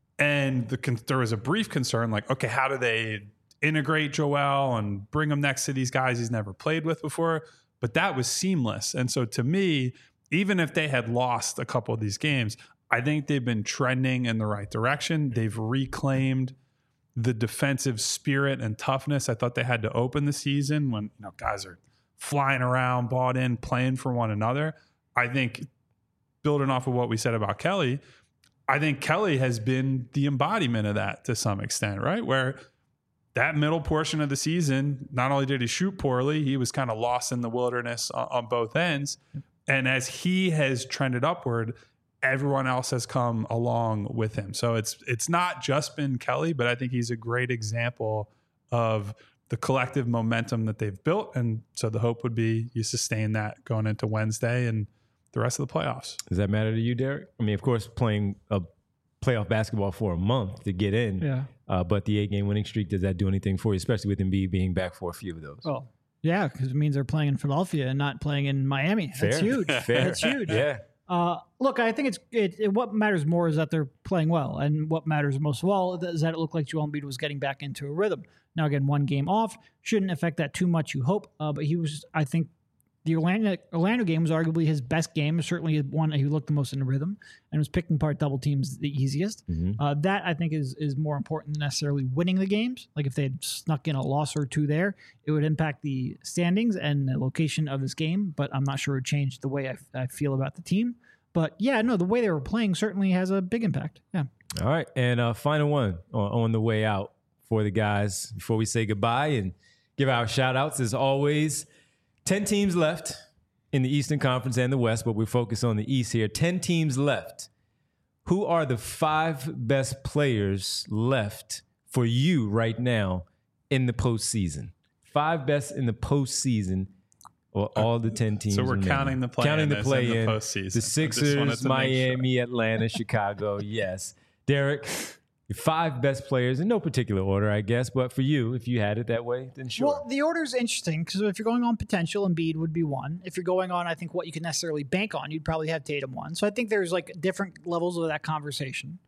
And there was a brief concern like, okay, how do they integrate Joel and bring him next to these guys he's never played with before? But that was seamless. And so to me, even if they had lost a couple of these games, I think they've been trending in the right direction. They've reclaimed the defensive spirit and toughness I thought they had to open the season when guys are flying around, bought in, playing for one another. I think building off of what we said about Kelly, I think Kelly has been the embodiment of that to some extent, right? Where that middle portion of the season, not only did he shoot poorly, he was kind of lost in the wilderness on both ends. And as he has trended upward, everyone else has come along with him. So it's not just been Kelly, but I think he's a great example of the collective momentum that they've built. And so the hope would be you sustain that going into Wednesday and the rest of the playoffs. Does that matter to you, Derek? I mean, of course, playing a playoff basketball for a month to get in. Yeah. But the 8-game winning streak, does that do anything for you, especially with Embiid being back for a few of those? Oh, yeah, because it means they're playing in Philadelphia and not playing in Miami. Fair. That's huge. Fair. That's huge. Yeah. Look, I think what matters more is that they're playing well. And what matters most of all is that it looked like Joel Embiid was getting back into a rhythm. Now, again, 1 game off shouldn't affect that too much, you hope. But he was, I think, the Orlando game was arguably his best game. Certainly one he looked the most in the rhythm and was picking apart double teams the easiest. Mm-hmm. That, I think, is more important than necessarily winning the games. Like if they had snuck in a loss or two there, it would impact the standings and the location of this game. But I'm not sure it would change the way I feel about the team. But yeah, no, the way they were playing certainly has a big impact. Yeah. All right. And final one on the way out for the guys before we say goodbye and give our shout outs as always. 10 teams left in the Eastern Conference and the West, but we focus on the East here. 10 teams left. Who are the 5 best players left for you right now in the postseason? 5 best in the postseason. Or all the 10 teams. So we're remaining. counting the play-in in the postseason. The Sixers, Miami, Atlanta, Chicago. Yes. Derek, your 5 best players in no particular order, I guess. But for you, if you had it that way, then sure. Well, the order is interesting because if you're going on potential, Embiid would be 1. If you're going on, I think, what you can necessarily bank on, you'd probably have Tatum 1. So I think there's like different levels of that conversation.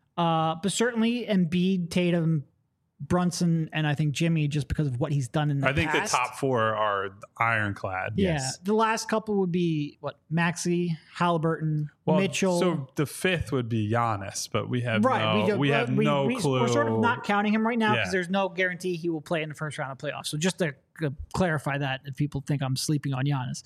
But certainly Embiid, Tatum, Brunson, and I think Jimmy, just because of what he's done in the past. I think the top 4 are ironclad. Yeah. Yes. The last couple would be, Maxey, Halliburton, Mitchell. So the 5th would be Giannis, but we have right. no clue. We're sort of not counting him right now because there's no guarantee he will play in the first round of playoffs. So just to clarify that, if people think I'm sleeping on Giannis,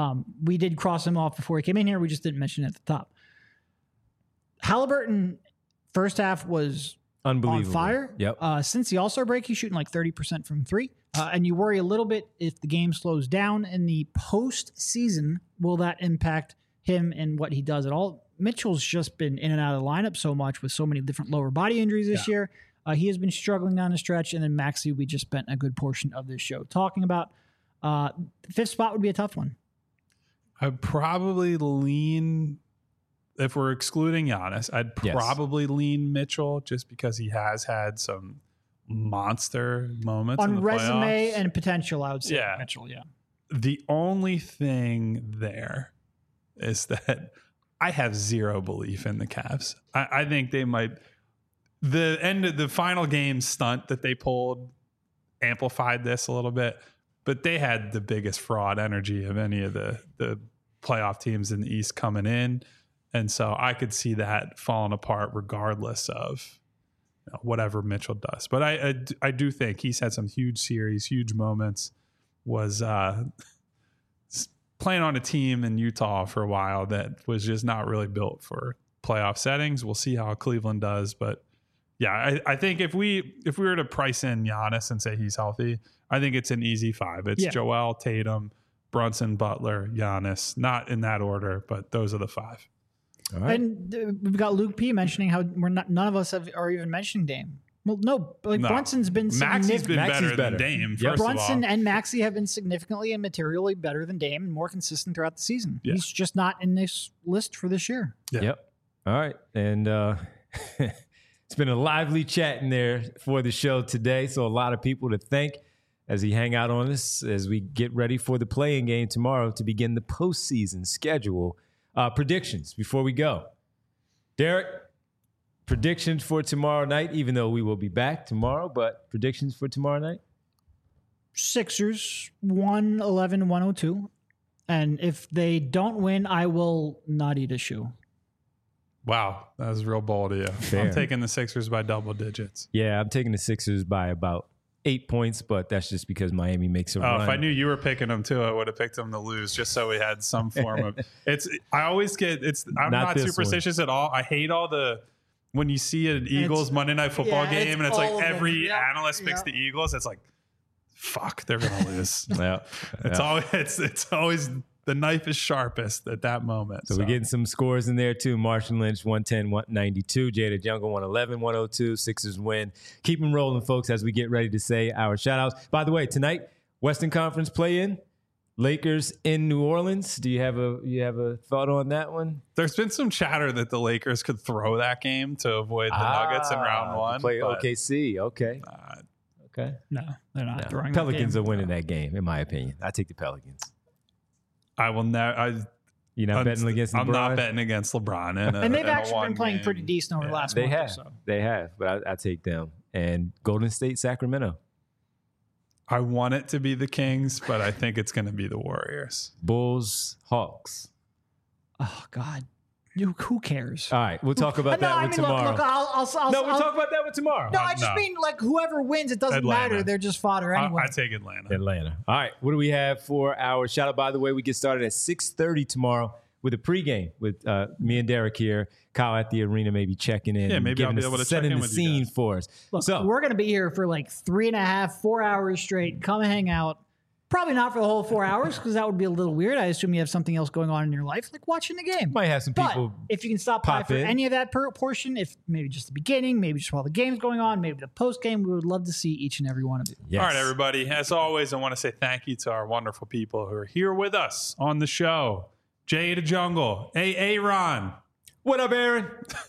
we did cross him off before he came in here. We just didn't mention it at the top. Halliburton, first half was Unbelievable. on fire. Yep. Since the All-Star break, he's shooting like 30% from three. And you worry a little bit if the game slows down in the postseason, will that impact him and what he does at all? Mitchell's just been in and out of the lineup so much with so many different lower body injuries this year. He has been struggling down the stretch. And then Maxey, we just spent a good portion of this show talking about. The fifth spot would be a tough one. I'd probably lean, if we're excluding Giannis, I'd probably lean Mitchell just because he has had some monster moments in On the resume playoffs. and potential, I would say Yeah. Mitchell, yeah. The only thing there is that I have zero belief in the Cavs. I think they might. The end of the final game stunt that they pulled amplified this a little bit, but they had the biggest fraud energy of any of the playoff teams in the East coming in. And so I could see that falling apart regardless of whatever Mitchell does. But I do think he's had some huge series, huge moments, was playing on a team in Utah for a while that was just not really built for playoff settings. We'll see how Cleveland does. But yeah, I think if we were to price in Giannis and say he's healthy, I think it's an easy 5. It's Joel, Tatum, Brunson, Butler, Giannis, not in that order, but those are the 5. All right. And we've got Luke P mentioning how none of us are even mentioning Dame. Well, no, Brunson's been Maxey's been Maxey's better than Dame. Yep. First Brunson of all. and Maxey have been significantly and materially better than Dame and more consistent throughout the season. Yeah. He's just not in this list for this year. Yeah. Yep. All right. And it's been a lively chat in there for the show today. So a lot of people to thank as we hang out on this, as we get ready for the play-in game tomorrow to begin the postseason schedule. Predictions before we go. Derek, predictions for tomorrow night, even though we will be back tomorrow, but predictions for tomorrow night? Sixers, 111-102. And if they don't win, I will not eat a shoe. Wow, that was real bold of you. Fair. I'm taking the Sixers by double digits. Yeah, I'm taking the Sixers by about 8 points, but that's just because Miami makes a run. If I knew you were picking them too, I would have picked them to lose just so we had some form of I'm not superstitious at all. I hate all the when you see an Eagles Monday Night Football game and it's like every analyst picks the Eagles, it's like fuck, they're gonna lose. Yeah. It's always the knife is sharpest at that moment. So we're getting some scores in there too. Martian Lynch, 110-192. Jada Jungle, 111-102. Sixers win. Keep them rolling, folks, as we get ready to say our shout-outs. By the way, tonight, Western Conference play-in. Lakers in New Orleans. Do you have a thought on that one? There's been some chatter that the Lakers could throw that game to avoid the Nuggets in round 1. Play OKC. Okay. Okay. No, they're not throwing Pelicans that are game. winning that game, in my opinion. I take the Pelicans. I will never. You're not betting against LeBron? I'm not betting against LeBron. And they've actually been playing pretty decent over the last month or so. They have, but I take them. And Golden State, Sacramento. I want it to be the Kings, but I think it's going to be the Warriors. Bulls, Hawks. Oh, God. Who cares? All right, we'll talk about that one tomorrow. Look, I'll we'll talk about that one tomorrow. No, I just mean like whoever wins, it doesn't Atlanta. matter. They're just fodder anyway. I take Atlanta. All right, what do we have for our shout out? By the way, we get started at 6:30 tomorrow with a pregame with me and Derek here. Kyle at the arena, maybe checking in. Yeah, maybe I'll be able to check setting in the with you scene guys. for us. Look, So we're going to be here for like 3.5, 4 hours straight. Come hang out. Probably not for the whole 4 hours because that would be a little weird. I assume you have something else going on in your life, like watching the game. might have some But people. if you can stop by pop for in. any of that portion, if maybe just the beginning, maybe just while the game's going on, maybe the post game, we would love to see each and every one of you. Yes. All right, everybody. As always, I want to say thank you to our wonderful people who are here with us on the show. Jay the Jungle, Ron. What up, Aaron?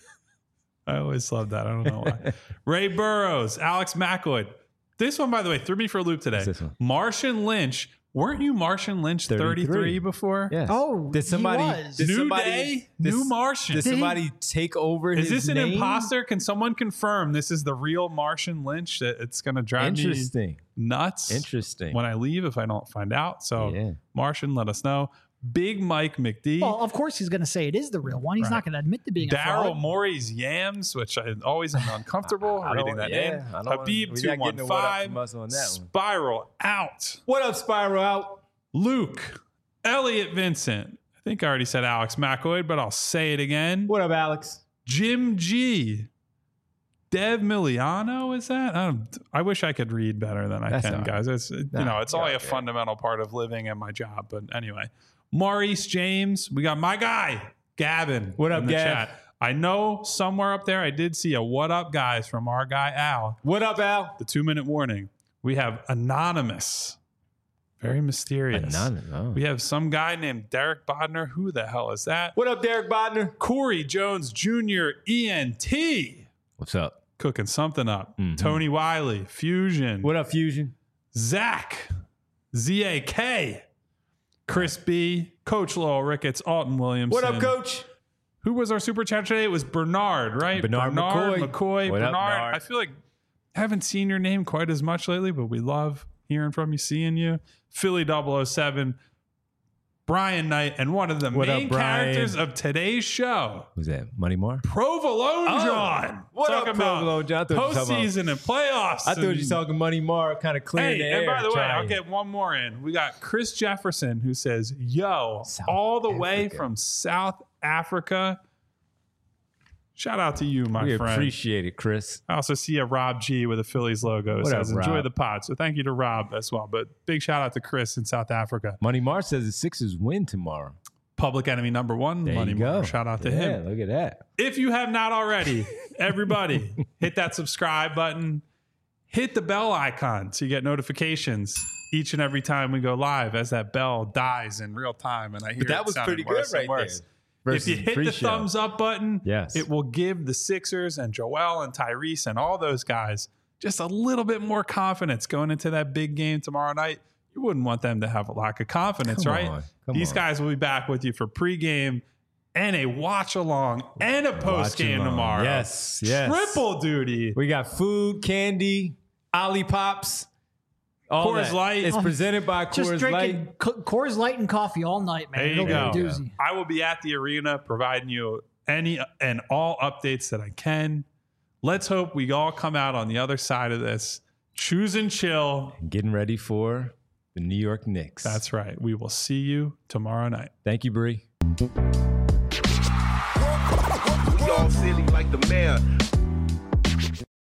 I always love that. I don't know why. Ray Burrows, Alex McElroy. This one, by the way, threw me for a loop today. What's this one? Martian Lynch. Weren't you Martian Lynch 33 before? Yes. Oh, did somebody? he was. Did New somebody, day, did- new Martian. Did somebody take over Is his this an name? imposter? Can someone confirm this is the real Martian Lynch? That it's going to drive me Interesting. nuts. Interesting. When I leave, if I don't find out. So, Yeah. Martian, let us know. Big Mike McD. Well, of course he's going to say it is the real one. He's Right. not going to admit to being a Daryl fraud. Morey's Yams, which I always am uncomfortable I don't- reading that yeah, name. I don't wanna- Habib we're not getting a what up from 215. us on that one. Spiral out. What up, Spiral Out? Luke. Elliot Vincent. I think I already said Alex McElroy, but I'll say it again. What up, Alex? Jim G. Dev Miliano, is that? I wish I could read better than I can, guys. It's it's only a fundamental part of living and my job. But anyway, Maurice James, we got my guy, Gavin. What up, in the Gav? chat. I know somewhere up there I did see a what up, guys, from our guy Al. What up, Al? The 2-minute warning. We have Anonymous. Very mysterious. Oh. We have some guy named Derek Bodner. Who the hell is that? What up, Derek Bodner? Corey Jones Jr. ENT. What's up? Cooking something up. Tony Wiley, Fusion. What up, Fusion? Zach, ZAK, Chris B, Coach Lowell Ricketts, Alton Williamson. What up, Coach? Who was our super chat today? It was Bernard, right? Bernard McCoy. Bernard. Up, Bernard? I feel like I haven't seen your name quite as much lately, but we love hearing from you, seeing you. Philly 007, Brian Knight, and one of the main characters of today's show. Who's that? Money Mar? Provolone John. What talking up, Provolone John? Postseason and playoffs. I thought you were talking Money Mar, kind of clearing the air. And by the way, I'll get one more in. We got Chris Jefferson who says, yo, all the way from South Africa. Shout out to you, my friend. We appreciate it, Chris. I also see a Rob G with a Phillies logo. Says, enjoy the pod. So thank you to Rob as well. But big shout out to Chris in South Africa. Money Mar says the Sixers win tomorrow. Public enemy number one, there Money you go. Mar. Shout out to him. Look at that. If you have not already, everybody, hit that subscribe button. Hit the bell icon so you get notifications each and every time we go live as that bell dies in real time. And I hear that was pretty good right there. If you hit the thumbs up button, yes, it will give the Sixers and Joel and Tyrese and all those guys just a little bit more confidence going into that big game tomorrow night. You wouldn't want them to have a lack of confidence, right? These guys will be back with you for pregame and a watch along and a post game tomorrow. Yes. Triple duty. We got food, candy, Ollie Pops. Coors Light. It's presented by Coors Just drinking Light. Coors Light and coffee all night, man. There you go. Be a doozy. I will be at the arena providing you any and all updates that I can. Let's hope we all come out on the other side of this. Choose and chill. Getting ready for the New York Knicks. That's right. We will see you tomorrow night. Thank you, Bree. We all silly like the mayor.